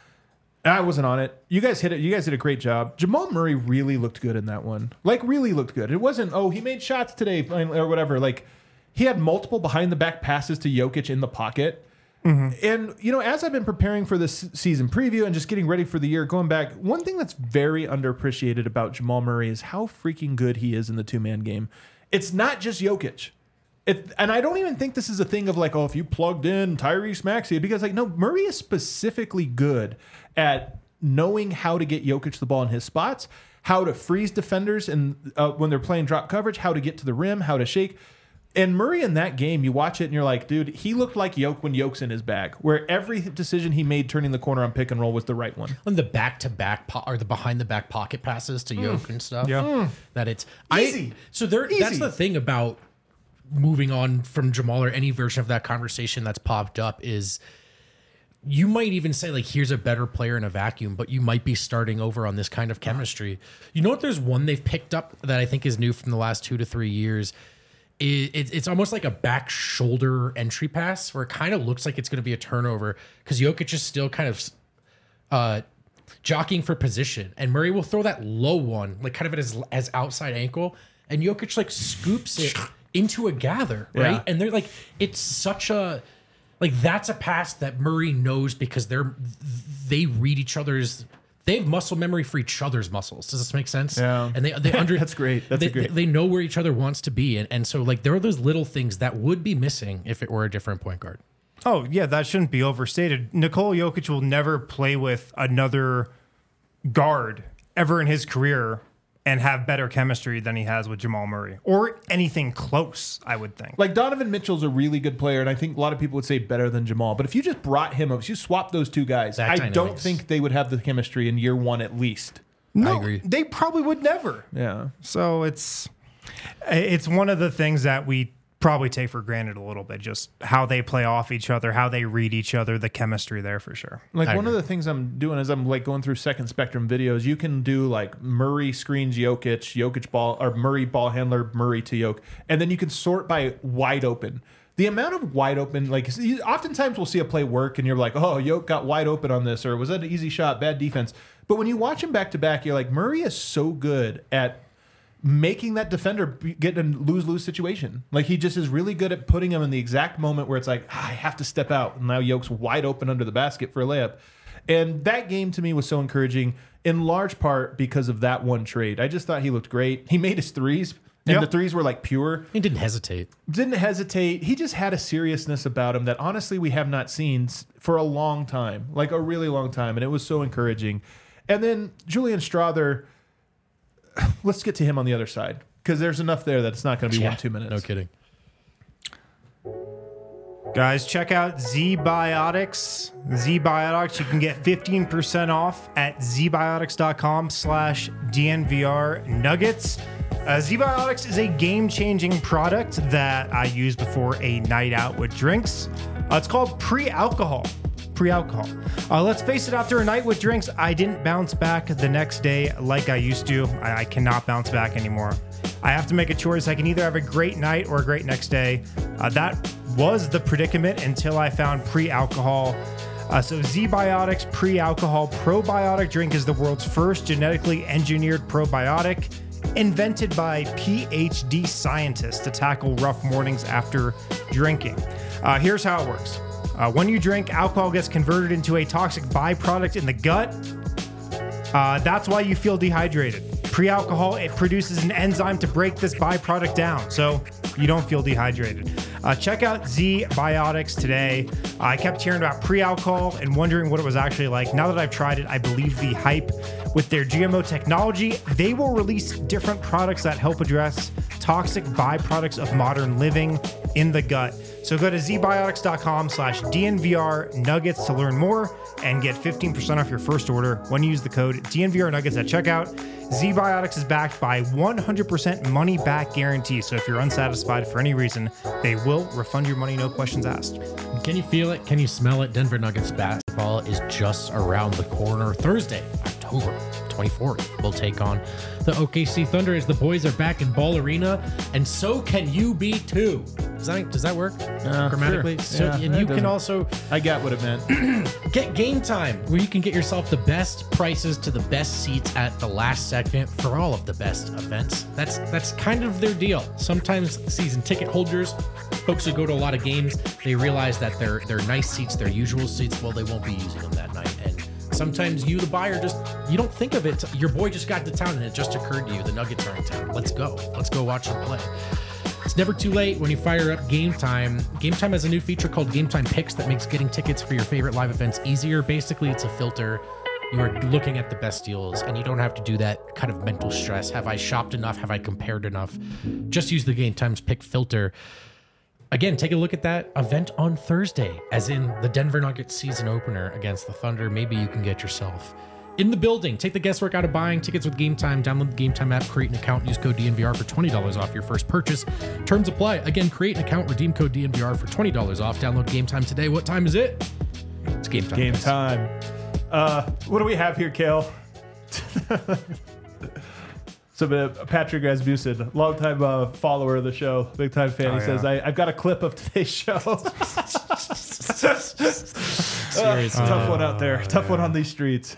I wasn't on it. You guys hit it. You guys did a great job. Jamal Murray really looked good in that one. Like, really looked good. It wasn't, oh, he made shots today or whatever. Like, he had multiple behind-the-back passes to Jokic in the pocket. Mm-hmm. And, you know, as I've been preparing for this season preview and just getting ready for the year, going back, one thing that's very underappreciated about Jamal Murray is how freaking good he is in the two-man game. It's not just Jokic. It, and I don't even think this is a thing of like, oh, if you plugged in Tyrese Maxey, because like, no, Murray is specifically good at knowing how to get Jokic the ball in his spots, how to freeze defenders and uh, when they're playing drop coverage, how to get to the rim, how to shake. And Murray in that game, you watch it and you're like, dude, he looked like Jokic when Jokic's in his bag, where every decision he made turning the corner on pick and roll was the right one. And the back to back po- or the behind the back pocket passes to Jokic and stuff. Yeah. Mm. That it's Easy. I, so there. Easy. That's the thing about moving on from Jamal or any version of that conversation that's popped up is you might even say like, here's a better player in a vacuum, but you might be starting over on this kind of chemistry. You know what? There's one they've picked up that I think is new from the last two to three years. It, it, it's almost like a back shoulder entry pass where it kind of looks like it's going to be a turnover because Jokic is still kind of uh, jockeying for position, and Murray will throw that low one, like kind of at his, as outside ankle, and Jokic like scoops it into a gather, right? Yeah. And they're like, it's such a like that's a pass that Murray knows because they're they read each other's. They have muscle memory for each other's muscles. Does this make sense? Yeah. And they they under That's great. That's they, a great. They know where each other wants to be, and and so like there are those little things that would be missing if it were a different point guard. Oh, yeah, that shouldn't be overstated. Nikola Jokic will never play with another guard ever in his career and have better chemistry than he has with Jamal Murray or anything close, I would think. Like Donovan Mitchell's a really good player, and I think a lot of people would say better than Jamal. But if you just brought him up, if you swap those two guys, That I dynamics. don't think they would have the chemistry in year one at least. No, I agree. They probably would never. Yeah. So it's it's one of the things that we probably take for granted a little bit, just how they play off each other, how they read each other, the chemistry there for sure. Like I one agree. of the things I'm doing is I'm like going through second spectrum videos. You can do like Murray screens Jokic, Jokic ball, or Murray ball handler, Murray to Jokic, and then you can sort by wide open. The amount of wide open, like oftentimes we'll see a play work and you're like, oh, Jokic got wide open on this, or was that an easy shot, bad defense? But when you watch him back to back, you're like, Murray is so good at making that defender be- get in a lose-lose situation. Like he just is really good at putting him in the exact moment where it's like, ah, I have to step out. And now Jokic's wide open under the basket for a layup. And that game to me was so encouraging in large part because of that one trade. I just thought he looked great. He made his threes. And Yep. the threes were like pure. He didn't hesitate. Didn't hesitate. He just had a seriousness about him that honestly we have not seen s- for a long time, like a really long time. And it was so encouraging. And then Julian Strawther, let's get to him on the other side because there's enough there that it's not going to be Yeah, one, two minutes. No kidding. Guys, check out Z-Biotics. Z-Biotics, you can get fifteen percent off at zbiotics.com slash DNVR Nuggets. Uh, Z-Biotics is a game-changing product that I use before a night out with drinks. Uh, it's called pre-alcohol. Pre-alcohol. Uh, let's face it, after a night with drinks, I didn't bounce back the next day like I used to. I, I cannot bounce back anymore. I have to make a choice. I can either have a great night or a great next day. Uh, that was the predicament until I found pre-alcohol. Uh, so Z-Biotics Pre-Alcohol Probiotic Drink is the world's first genetically engineered probiotic invented by P H D scientists to tackle rough mornings after drinking. Uh, here's how it works. Uh, when you drink, alcohol gets converted into a toxic byproduct in the gut. Uh, that's why you feel dehydrated. Pre-alcohol, it produces an enzyme to break this byproduct down, so you don't feel dehydrated. Uh, check out Z-Biotics today. Uh, I kept hearing about pre-alcohol and wondering what it was actually like. Now that I've tried it, I believe the hype. With their G M O technology, they will release different products that help address toxic byproducts of modern living in the gut. So go to zbiotics.com slash DNVR Nuggets to learn more and get fifteen percent off your first order when you use the code D N V R Nuggets at checkout. Z-Biotics is backed by one hundred percent money back guarantee. So if you're unsatisfied for any reason, they will refund your money, no questions asked. Can you feel it? Can you smell it? Denver Nuggets basketball is just around the corner. Thursday, October twenty-fourth will take on the O K C Thunder as the boys are back in Ball Arena, and so can you be too. Does that, does that work Uh, grammatically? sure. So, Yeah, and that you can doesn't- also I got what it meant. get Game Time, where you can get yourself the best prices to the best seats at the last second for all of the best events. That's that's kind of their deal. Sometimes season ticket holders, folks who go to a lot of games, they realize that their their nice seats, their usual seats, well, they won't be using them that night. And sometimes you, the buyer, just you don't think of it. Your boy just got to town, and it just occurred to you the Nuggets are in town. Let's go. Let's go watch them play. It's never too late when you fire up Game Time. Game Time has a new feature called Game Time Picks that makes getting tickets for your favorite live events easier. Basically, it's a filter. You are looking at the best deals, and you don't have to do that kind of mental stress. Have I shopped enough? Have I compared enough? Just use the Game Time's Pick filter. Again, take a look at that event on Thursday, as in the Denver Nuggets season opener against the Thunder. Maybe you can get yourself in the building. Take the guesswork out of buying tickets with Game Time. Download the Game Time app, create an account, use code D N V R for twenty dollars off your first purchase. Terms apply. Again, create an account, redeem code D N V R for twenty dollars off. Download Game Time today. What time is it? It's Game Time. Game guys. time. Uh, what do we have here, Kale? So uh, Patrick Rasmussen, longtime uh, follower of the show, big time fan. Oh, he yeah. says, I, "I've got a clip of today's show." Seriously. Uh, tough one out there. Tough one on these streets.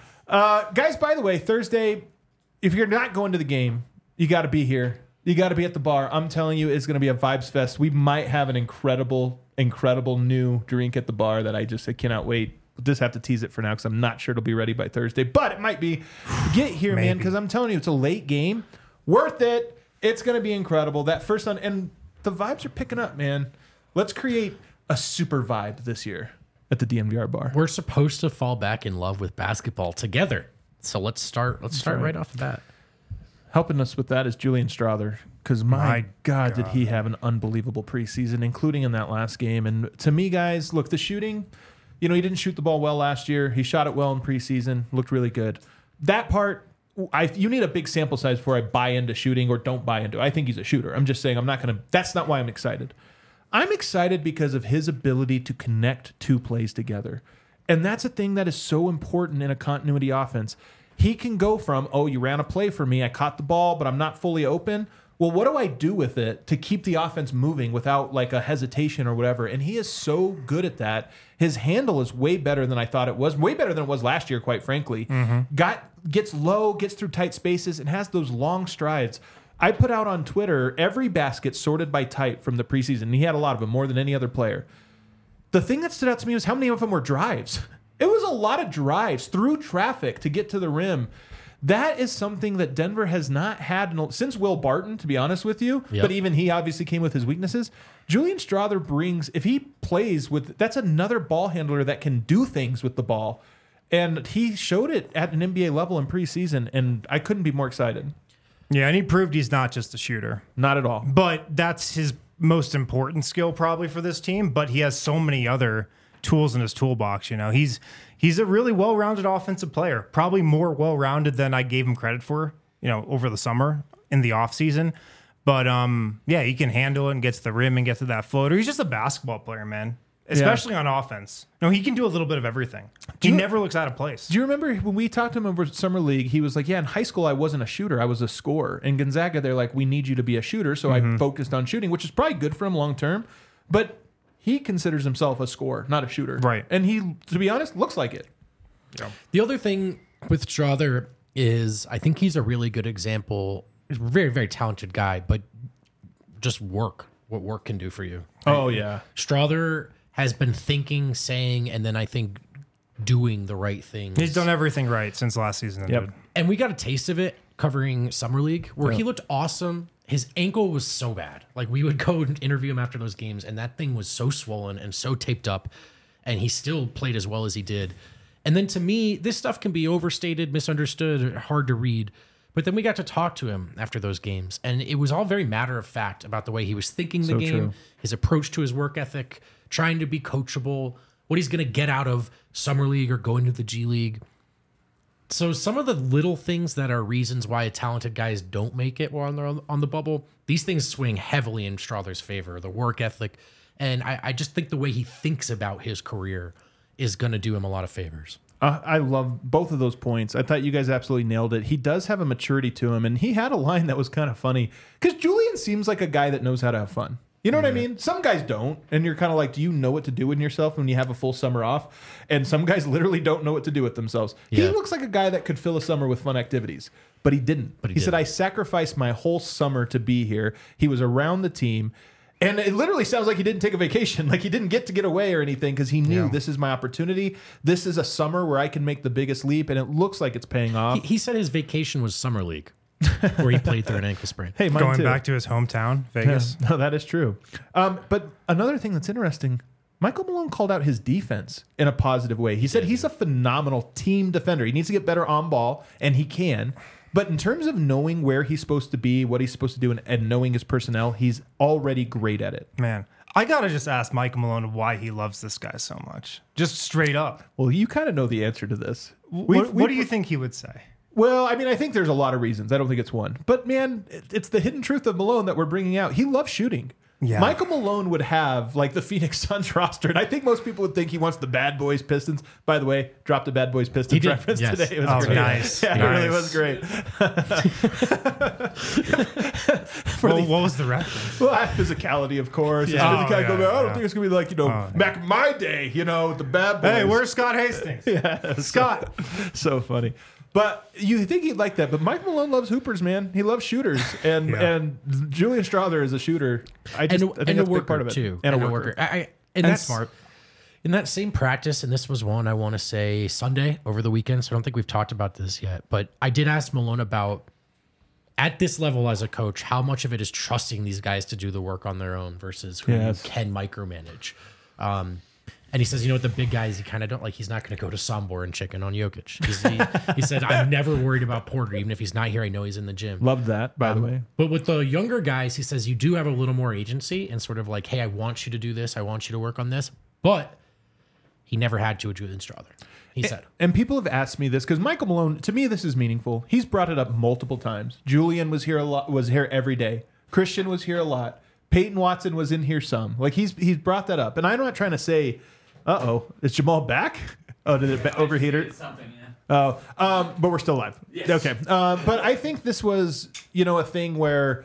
Uh, guys, by the way, Thursday, if you're not going to the game, you got to be here. You got to be at the bar. I'm telling you, it's going to be a vibes fest. We might have an incredible, incredible new drink at the bar that I just I cannot wait. We'll just have to tease it for now because I'm not sure it'll be ready by Thursday, but it might be. Get here, man, Maybe. because I'm telling you, it's a late game. Worth it. It's going to be incredible. That first one, and the vibes are picking up, man. Let's create a super vibe this year at the D N V R bar. We're supposed to fall back in love with basketball together. So let's start. Let's start right. right off the bat. Helping us with that is Julian Strother, because my, My God, did he have an unbelievable preseason, including in that last game. And to me, guys, look, the shooting, you know, he didn't shoot the ball well last year. He shot it well in preseason, looked really good. That part, I you need a big sample size before I buy into shooting or don't buy into it. I think he's a shooter. I'm just saying I'm not going to, that's not why I'm excited. I'm excited because of his ability to connect two plays together. And that's a thing that is so important in a continuity offense. He can go from, oh, you ran a play for me, I caught the ball, but I'm not fully open. Well, what do I do with it to keep the offense moving without like a hesitation or whatever? And he is so good at that. His handle is way better than I thought it was, way better than it was last year, quite frankly. Mm-hmm. Got gets low, gets through tight spaces, and has those long strides. I put out on Twitter every basket sorted by type from the preseason. And he had a lot of them, more than any other player. The thing that stood out to me was how many of them were drives. It was a lot of drives through traffic to get to the rim. That is something that Denver has not had in, since Will Barton, to be honest with you. Yep. But even he obviously came with his weaknesses. Julian Strother brings, if he plays with, that's another ball handler that can do things with the ball. And he showed it at an N B A level in preseason, and I couldn't be more excited. Yeah, and he proved he's not just a shooter. Not at all. But that's his most important skill probably for this team. But he has so many other tools in his toolbox. You know, he's he's a really well-rounded offensive player, probably more well-rounded than I gave him credit for, you know, over the summer in the offseason. But um, yeah, he can handle it and get to the rim and get to that floater. He's just a basketball player, man. Especially on offense. No, he can do a little bit of everything. He you- never looks out of place. Do you remember when we talked to him over Summer League, he was like, yeah, in high school, I wasn't a shooter. I was a scorer. In Gonzaga, they're like, we need you to be a shooter. So I focused on shooting, which is probably good for him long term. But he considers himself a scorer, not a shooter. Right. And he, to be honest, looks like it. The other thing with Strother is I think he's a really good example. He's a very, very talented guy, but just work, what work can do for you. Oh, yeah. Strother has been thinking, saying, and then I think doing the right things. He's done everything right since last season ended. Yep. And we got a taste of it covering Summer League where he looked awesome. His ankle was so bad. Like we would go and interview him after those games, and that thing was so swollen and so taped up, and he still played as well as he did. And then to me, this stuff can be overstated, misunderstood, hard to read. But then we got to talk to him after those games, and it was all very matter of fact about the way he was thinking the So game, true. his approach to his work ethic, trying to be coachable, what he's going to get out of Summer League or going to the G League. So some of the little things that are reasons why talented guys don't make it while they're on the bubble, these things swing heavily in Strother's favor, the work ethic. And I, I just think the way he thinks about his career is going to do him a lot of favors. Uh, I love both of those points. I thought you guys absolutely nailed it. He does have a maturity to him, and he had a line that was kind of funny because Julian seems like a guy that knows how to have fun. You know what I mean? Some guys don't, and you're kind of like, do you know what to do with yourself when you have a full summer off? And some guys literally don't know what to do with themselves. He Yeah. looks like a guy that could fill a summer with fun activities, but he didn't. But he he said, didn't. I sacrificed my whole summer to be here. He was around the team. And it literally sounds like he didn't take a vacation. Like he didn't get to get away or anything because he knew Yeah. this is my opportunity. This is a summer where I can make the biggest leap, and it looks like it's paying off. He, he said his vacation was summer league, where he played through an ankle sprain. hey, mine Going too. back to his hometown, Yeah, Vegas. no, that is true. Um, but another thing that's interesting, Michael Malone called out his defense in a positive way. He said he's a phenomenal team defender. He needs to get better on ball, and he can. But in terms of knowing where he's supposed to be, what he's supposed to do, and, and knowing his personnel, he's already great at it. Man, I gotta just ask Michael Malone why he loves this guy so much. Just straight up. Well, you kind of know the answer to this. What, We've- what we've- do you think he would say? Well, I mean, I think there's a lot of reasons. I don't think it's one. But man, it- it's the hidden truth of Malone that we're bringing out. He loves shooting. Yeah. Michael Malone would have like the Phoenix Suns roster, and I think most people would think he wants the Bad Boys Pistons. By the way, dropped the Bad Boys Pistons He did, reference yes. today. It was Oh, great. nice. Yeah, it Nice. really was great. For Well, the what was the reference? well, that physicality, of course. It's Yeah. really Oh, kind of go yeah, back, I don't yeah. think it's gonna be like you know Oh, yeah. back in my day, you know, the Bad Boys. Hey, where's Scott Hastings? Yeah, Scott. So funny. But you think he'd like that. But Mike Malone loves hoopers, man. He loves shooters. And Yeah. and Julian Strother is a shooter. I just and, I think and that's a a worker big part of it. too, And, a worker. I, I, and, And that's smart. In that same practice, and this was one I want to say Sunday over the weekend, so I don't think we've talked about this yet. But I did ask Malone about at this level as a coach, how much of it is trusting these guys to do the work on their own versus who Yes. you can micromanage. Um, and he says, you know what, the big guys, he kind of don't like, he's not going to go to Sombor and chicken on Jokic. He's, he, he said, I'm never worried about Porter. Even if he's not here, I know he's in the gym. Loved that, by the way. But with the younger guys, he says you do have a little more agency and sort of like, hey, I want you to do this. I want you to work on this. But he never had to with Julian Strother. He said. And people have asked me this because Michael Malone, to me, this is meaningful. He's brought it up multiple times. Julian was here a lot, was here every day. Christian was here a lot. Peyton Watson was in here some. Like he's he's brought that up. And I'm not trying to say, uh oh, is Jamal back? Oh, did it ba- overheat her? Something, yeah. Oh, um, but we're still live. Yes. Okay. Um, but I think this was, you know, a thing where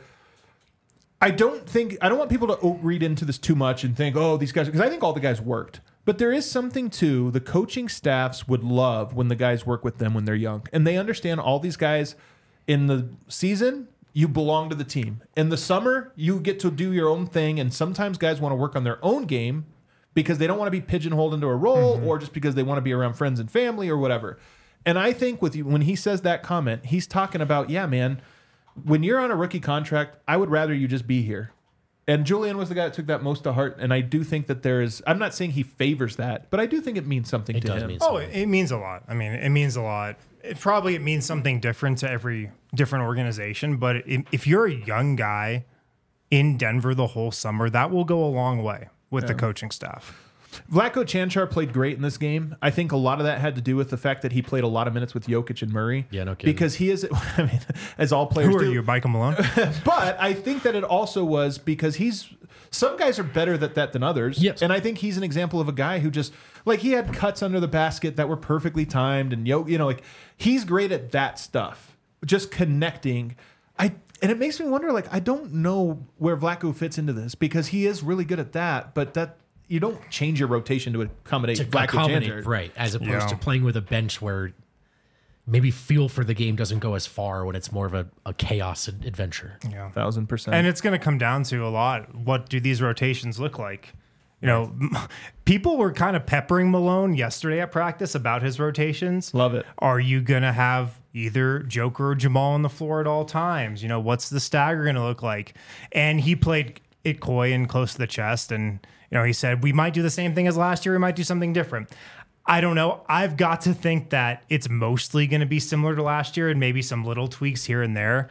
I don't think, I don't want people to o- read into this too much and think, oh, these guys, because I think all the guys worked. But there is something to the coaching staffs would love when the guys work with them when they're young. And they understand all these guys in the season, you belong to the team. In the summer, you get to do your own thing. And sometimes guys want to work on their own game because they don't want to be pigeonholed into a role or just because they want to be around friends and family or whatever. And I think with you, when he says that comment, he's talking about, yeah, man, when you're on a rookie contract, I would rather you just be here. And Julian was the guy that took that most to heart. And I do think that there is, I'm not saying he favors that, but I do think it means something It to does him. mean Oh, it, it means a lot. I mean, it means a lot. It probably it means something different to every different organization. But it, if you're a young guy in Denver the whole summer, that will go a long way with the coaching staff. Vlatko Chanchar played great in this game. I think a lot of that had to do with the fact that he played a lot of minutes with Jokic and Murray. Yeah, no kidding. Because he is, I mean, as all players Who are do. you, Michael Malone? But I think that it also was because he's some guys are better at that than others. Yes. And I think he's an example of a guy who just like he had cuts under the basket that were perfectly timed and yo, you know, like he's great at that stuff. Just connecting. I and it makes me wonder, like, I don't know where Vlatko fits into this because he is really good at that, but that you don't change your rotation to accommodate to Vlatko accommodate, Chanchar. right? As opposed Yeah. to playing with a bench where maybe feel for the game doesn't go as far when it's more of a, a chaos ad- adventure. Yeah. Thousand percent. And it's going to come down to a lot. What do these rotations look like? You know, people were kind of peppering Malone yesterday at practice about his rotations. Love it. Are you going to have either Joker or Jamal on the floor at all times? You know, what's the stagger going to look like? And he played it coy and close to the chest. And, you know, he said, we might do the same thing as last year. We might do something different. I don't know. I've got to think that it's mostly going to be similar to last year and maybe some little tweaks here and there.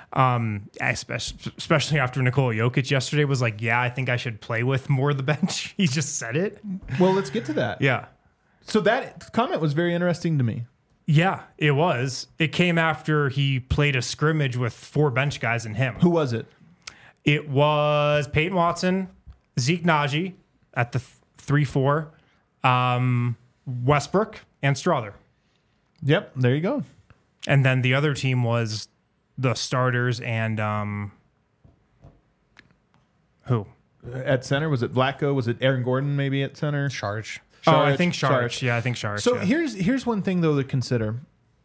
Um, especially, especially after Nikola Jokic yesterday was like, yeah, I think I should play with more of the bench. He just said it. Well, let's get to that. Yeah. So that comment was very interesting to me. Yeah, it was. It came after he played a scrimmage with four bench guys and him. Who was it? It was Peyton Watson, Zeke Naji at the three four, um, Westbrook and Strother. Yep, there you go. And then the other team was the starters and um, who? At center, was it Vlatko? Was it Aaron Gordon maybe at center? Charge. Oh, I Saric, think Sharch. Saric. Yeah, I think Sharch. So yeah. here's here's one thing though to consider.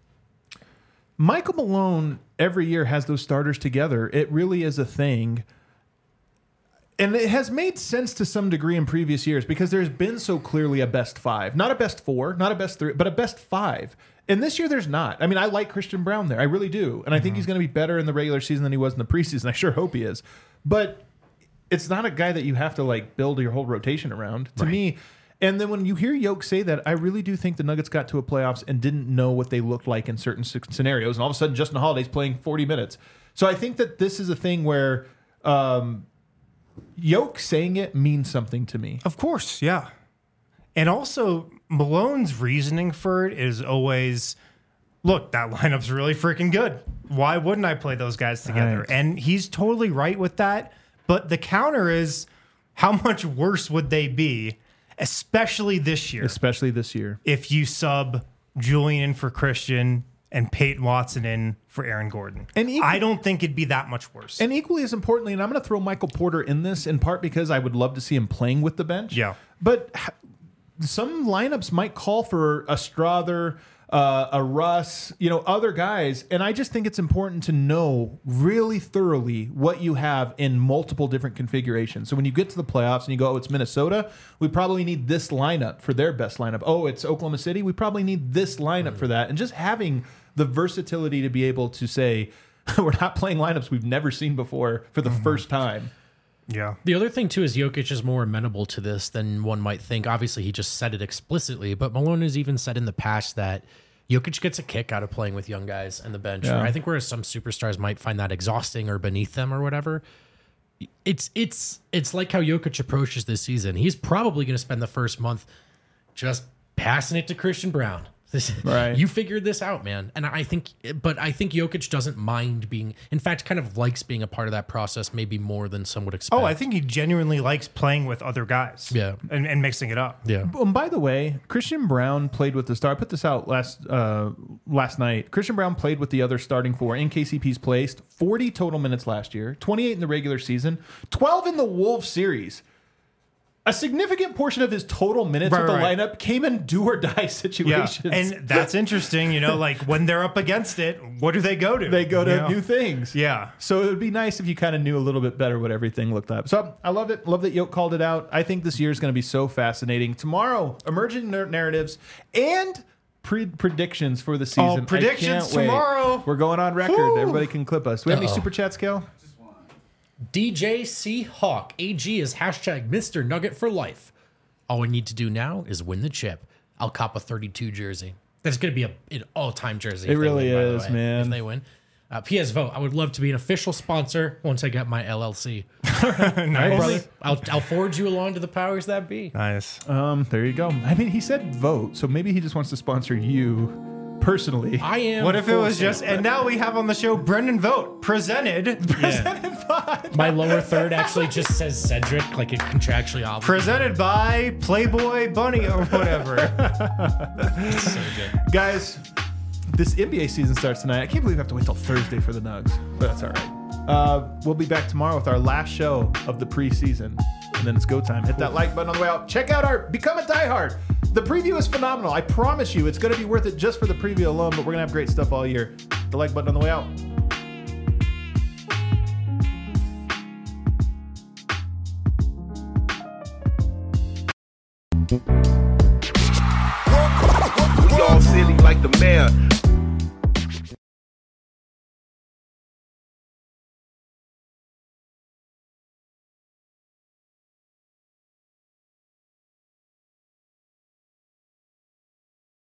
Michael Malone every year has those starters together. It really is a thing. And it has made sense to some degree in previous years because there's been so clearly a best five. Not a best four, not a best three, but a best five. And this year there's not. I mean, I like Christian Braun there. I really do. And I think he's going to be better in the regular season than he was in the preseason. I sure hope he is. But it's not a guy that you have to like build your whole rotation around. To Right. me, and then when you hear Yoke say that, I really do think the Nuggets got to a playoffs and didn't know what they looked like in certain s- scenarios. And all of a sudden, Justin Holiday's playing forty minutes. So I think that this is a thing where um, Yoke saying it means something to me. Of course, yeah. And also, Malone's reasoning for it is always, look, that lineup's really freaking good. Why wouldn't I play those guys together? Right. And he's totally right with that. But the counter is, how much worse would they be, especially this year, Especially this year. if you sub Julian in for Christian and Peyton Watson in for Aaron Gordon? And equal- I don't think it'd be that much worse. And equally as importantly, and I'm going to throw Michael Porter in this in part because I would love to see him playing with the bench. Yeah. But h- some lineups might call for a Strother, uh, a Russ, you know, other guys. And I just think it's important to know really thoroughly what you have in multiple different configurations. So when you get to the playoffs and you go, oh, it's Minnesota, we probably need this lineup for their best lineup. Oh, it's Oklahoma City, we probably need this lineup for that. And just having the versatility to be able to say, we're not playing lineups we've never seen before for the first time. yeah. The other thing, too, is Jokic is more amenable to this than one might think. Obviously, he just said it explicitly, but Malone has even said in the past that Jokic gets a kick out of playing with young guys and the bench. Yeah. I think whereas some superstars might find that exhausting or beneath them or whatever, it's it's it's like how Jokic approaches this season. He's probably going to spend the first month just passing it to Christian Braun. Right. You figured this out, man. And I think, but I think Jokic doesn't mind being, in fact, kind of likes being a part of that process, maybe more than some would expect. Oh, I think he genuinely likes playing with other guys. Yeah. And, and mixing it up. Yeah. And by the way, Christian Braun played with the star. I put this out last uh, last night. Christian Braun played with the other starting four in K C P's placed. forty total minutes last year, twenty-eight in the regular season, twelve in the Wolves series. A significant portion of his total minutes Right, with the right. lineup came in do or die Yeah. situations. And that's interesting. You know, like when they're up against it, what do they go to? they go to You know? new things. Yeah. So it would be nice if you kind of knew a little bit better what everything looked like. So I love it. Love that Yoke called it out. I think this year is going to be so fascinating. Tomorrow, emerging nar- narratives and pre- predictions for the season. I predictions can't wait. tomorrow. We're going on record. Woo. Everybody can clip us. Do we have any Uh-oh. super chats, Kel? D J C Hawk A G is hashtag Mister Nugget for life. All we need to do now is win the chip. I'll cop a thirty-two jersey. That's going to be a, an all-time jersey. It if they really win, by the is, way, man. If they win. Uh, P S Vote. I would love to be an official sponsor once I get my L L C. Nice. Brother, I'll, I'll forward you along to the powers that be. Nice. Um, there you go. I mean, he said vote, so maybe he just wants to sponsor you personally. I am. What if it full was sale. just, and now we have on the show Brendan Vogt, presented, My lower third actually just says Cedric, like it contractually obligated. presented by Playboy Bunny or whatever. So good. Guys, this N B A season starts tonight. I can't believe we have to wait till Thursday for the Nugs, but that's all right. Uh, we'll be back tomorrow with our last show of the preseason, and then it's go time. Hit that like button on the way out. Check out our Become a Diehard. The preview is phenomenal. I promise you, it's going to be worth it just for the preview alone, but we're going to have great stuff all year. Hit the like button on the way out. We all silly like the mayor.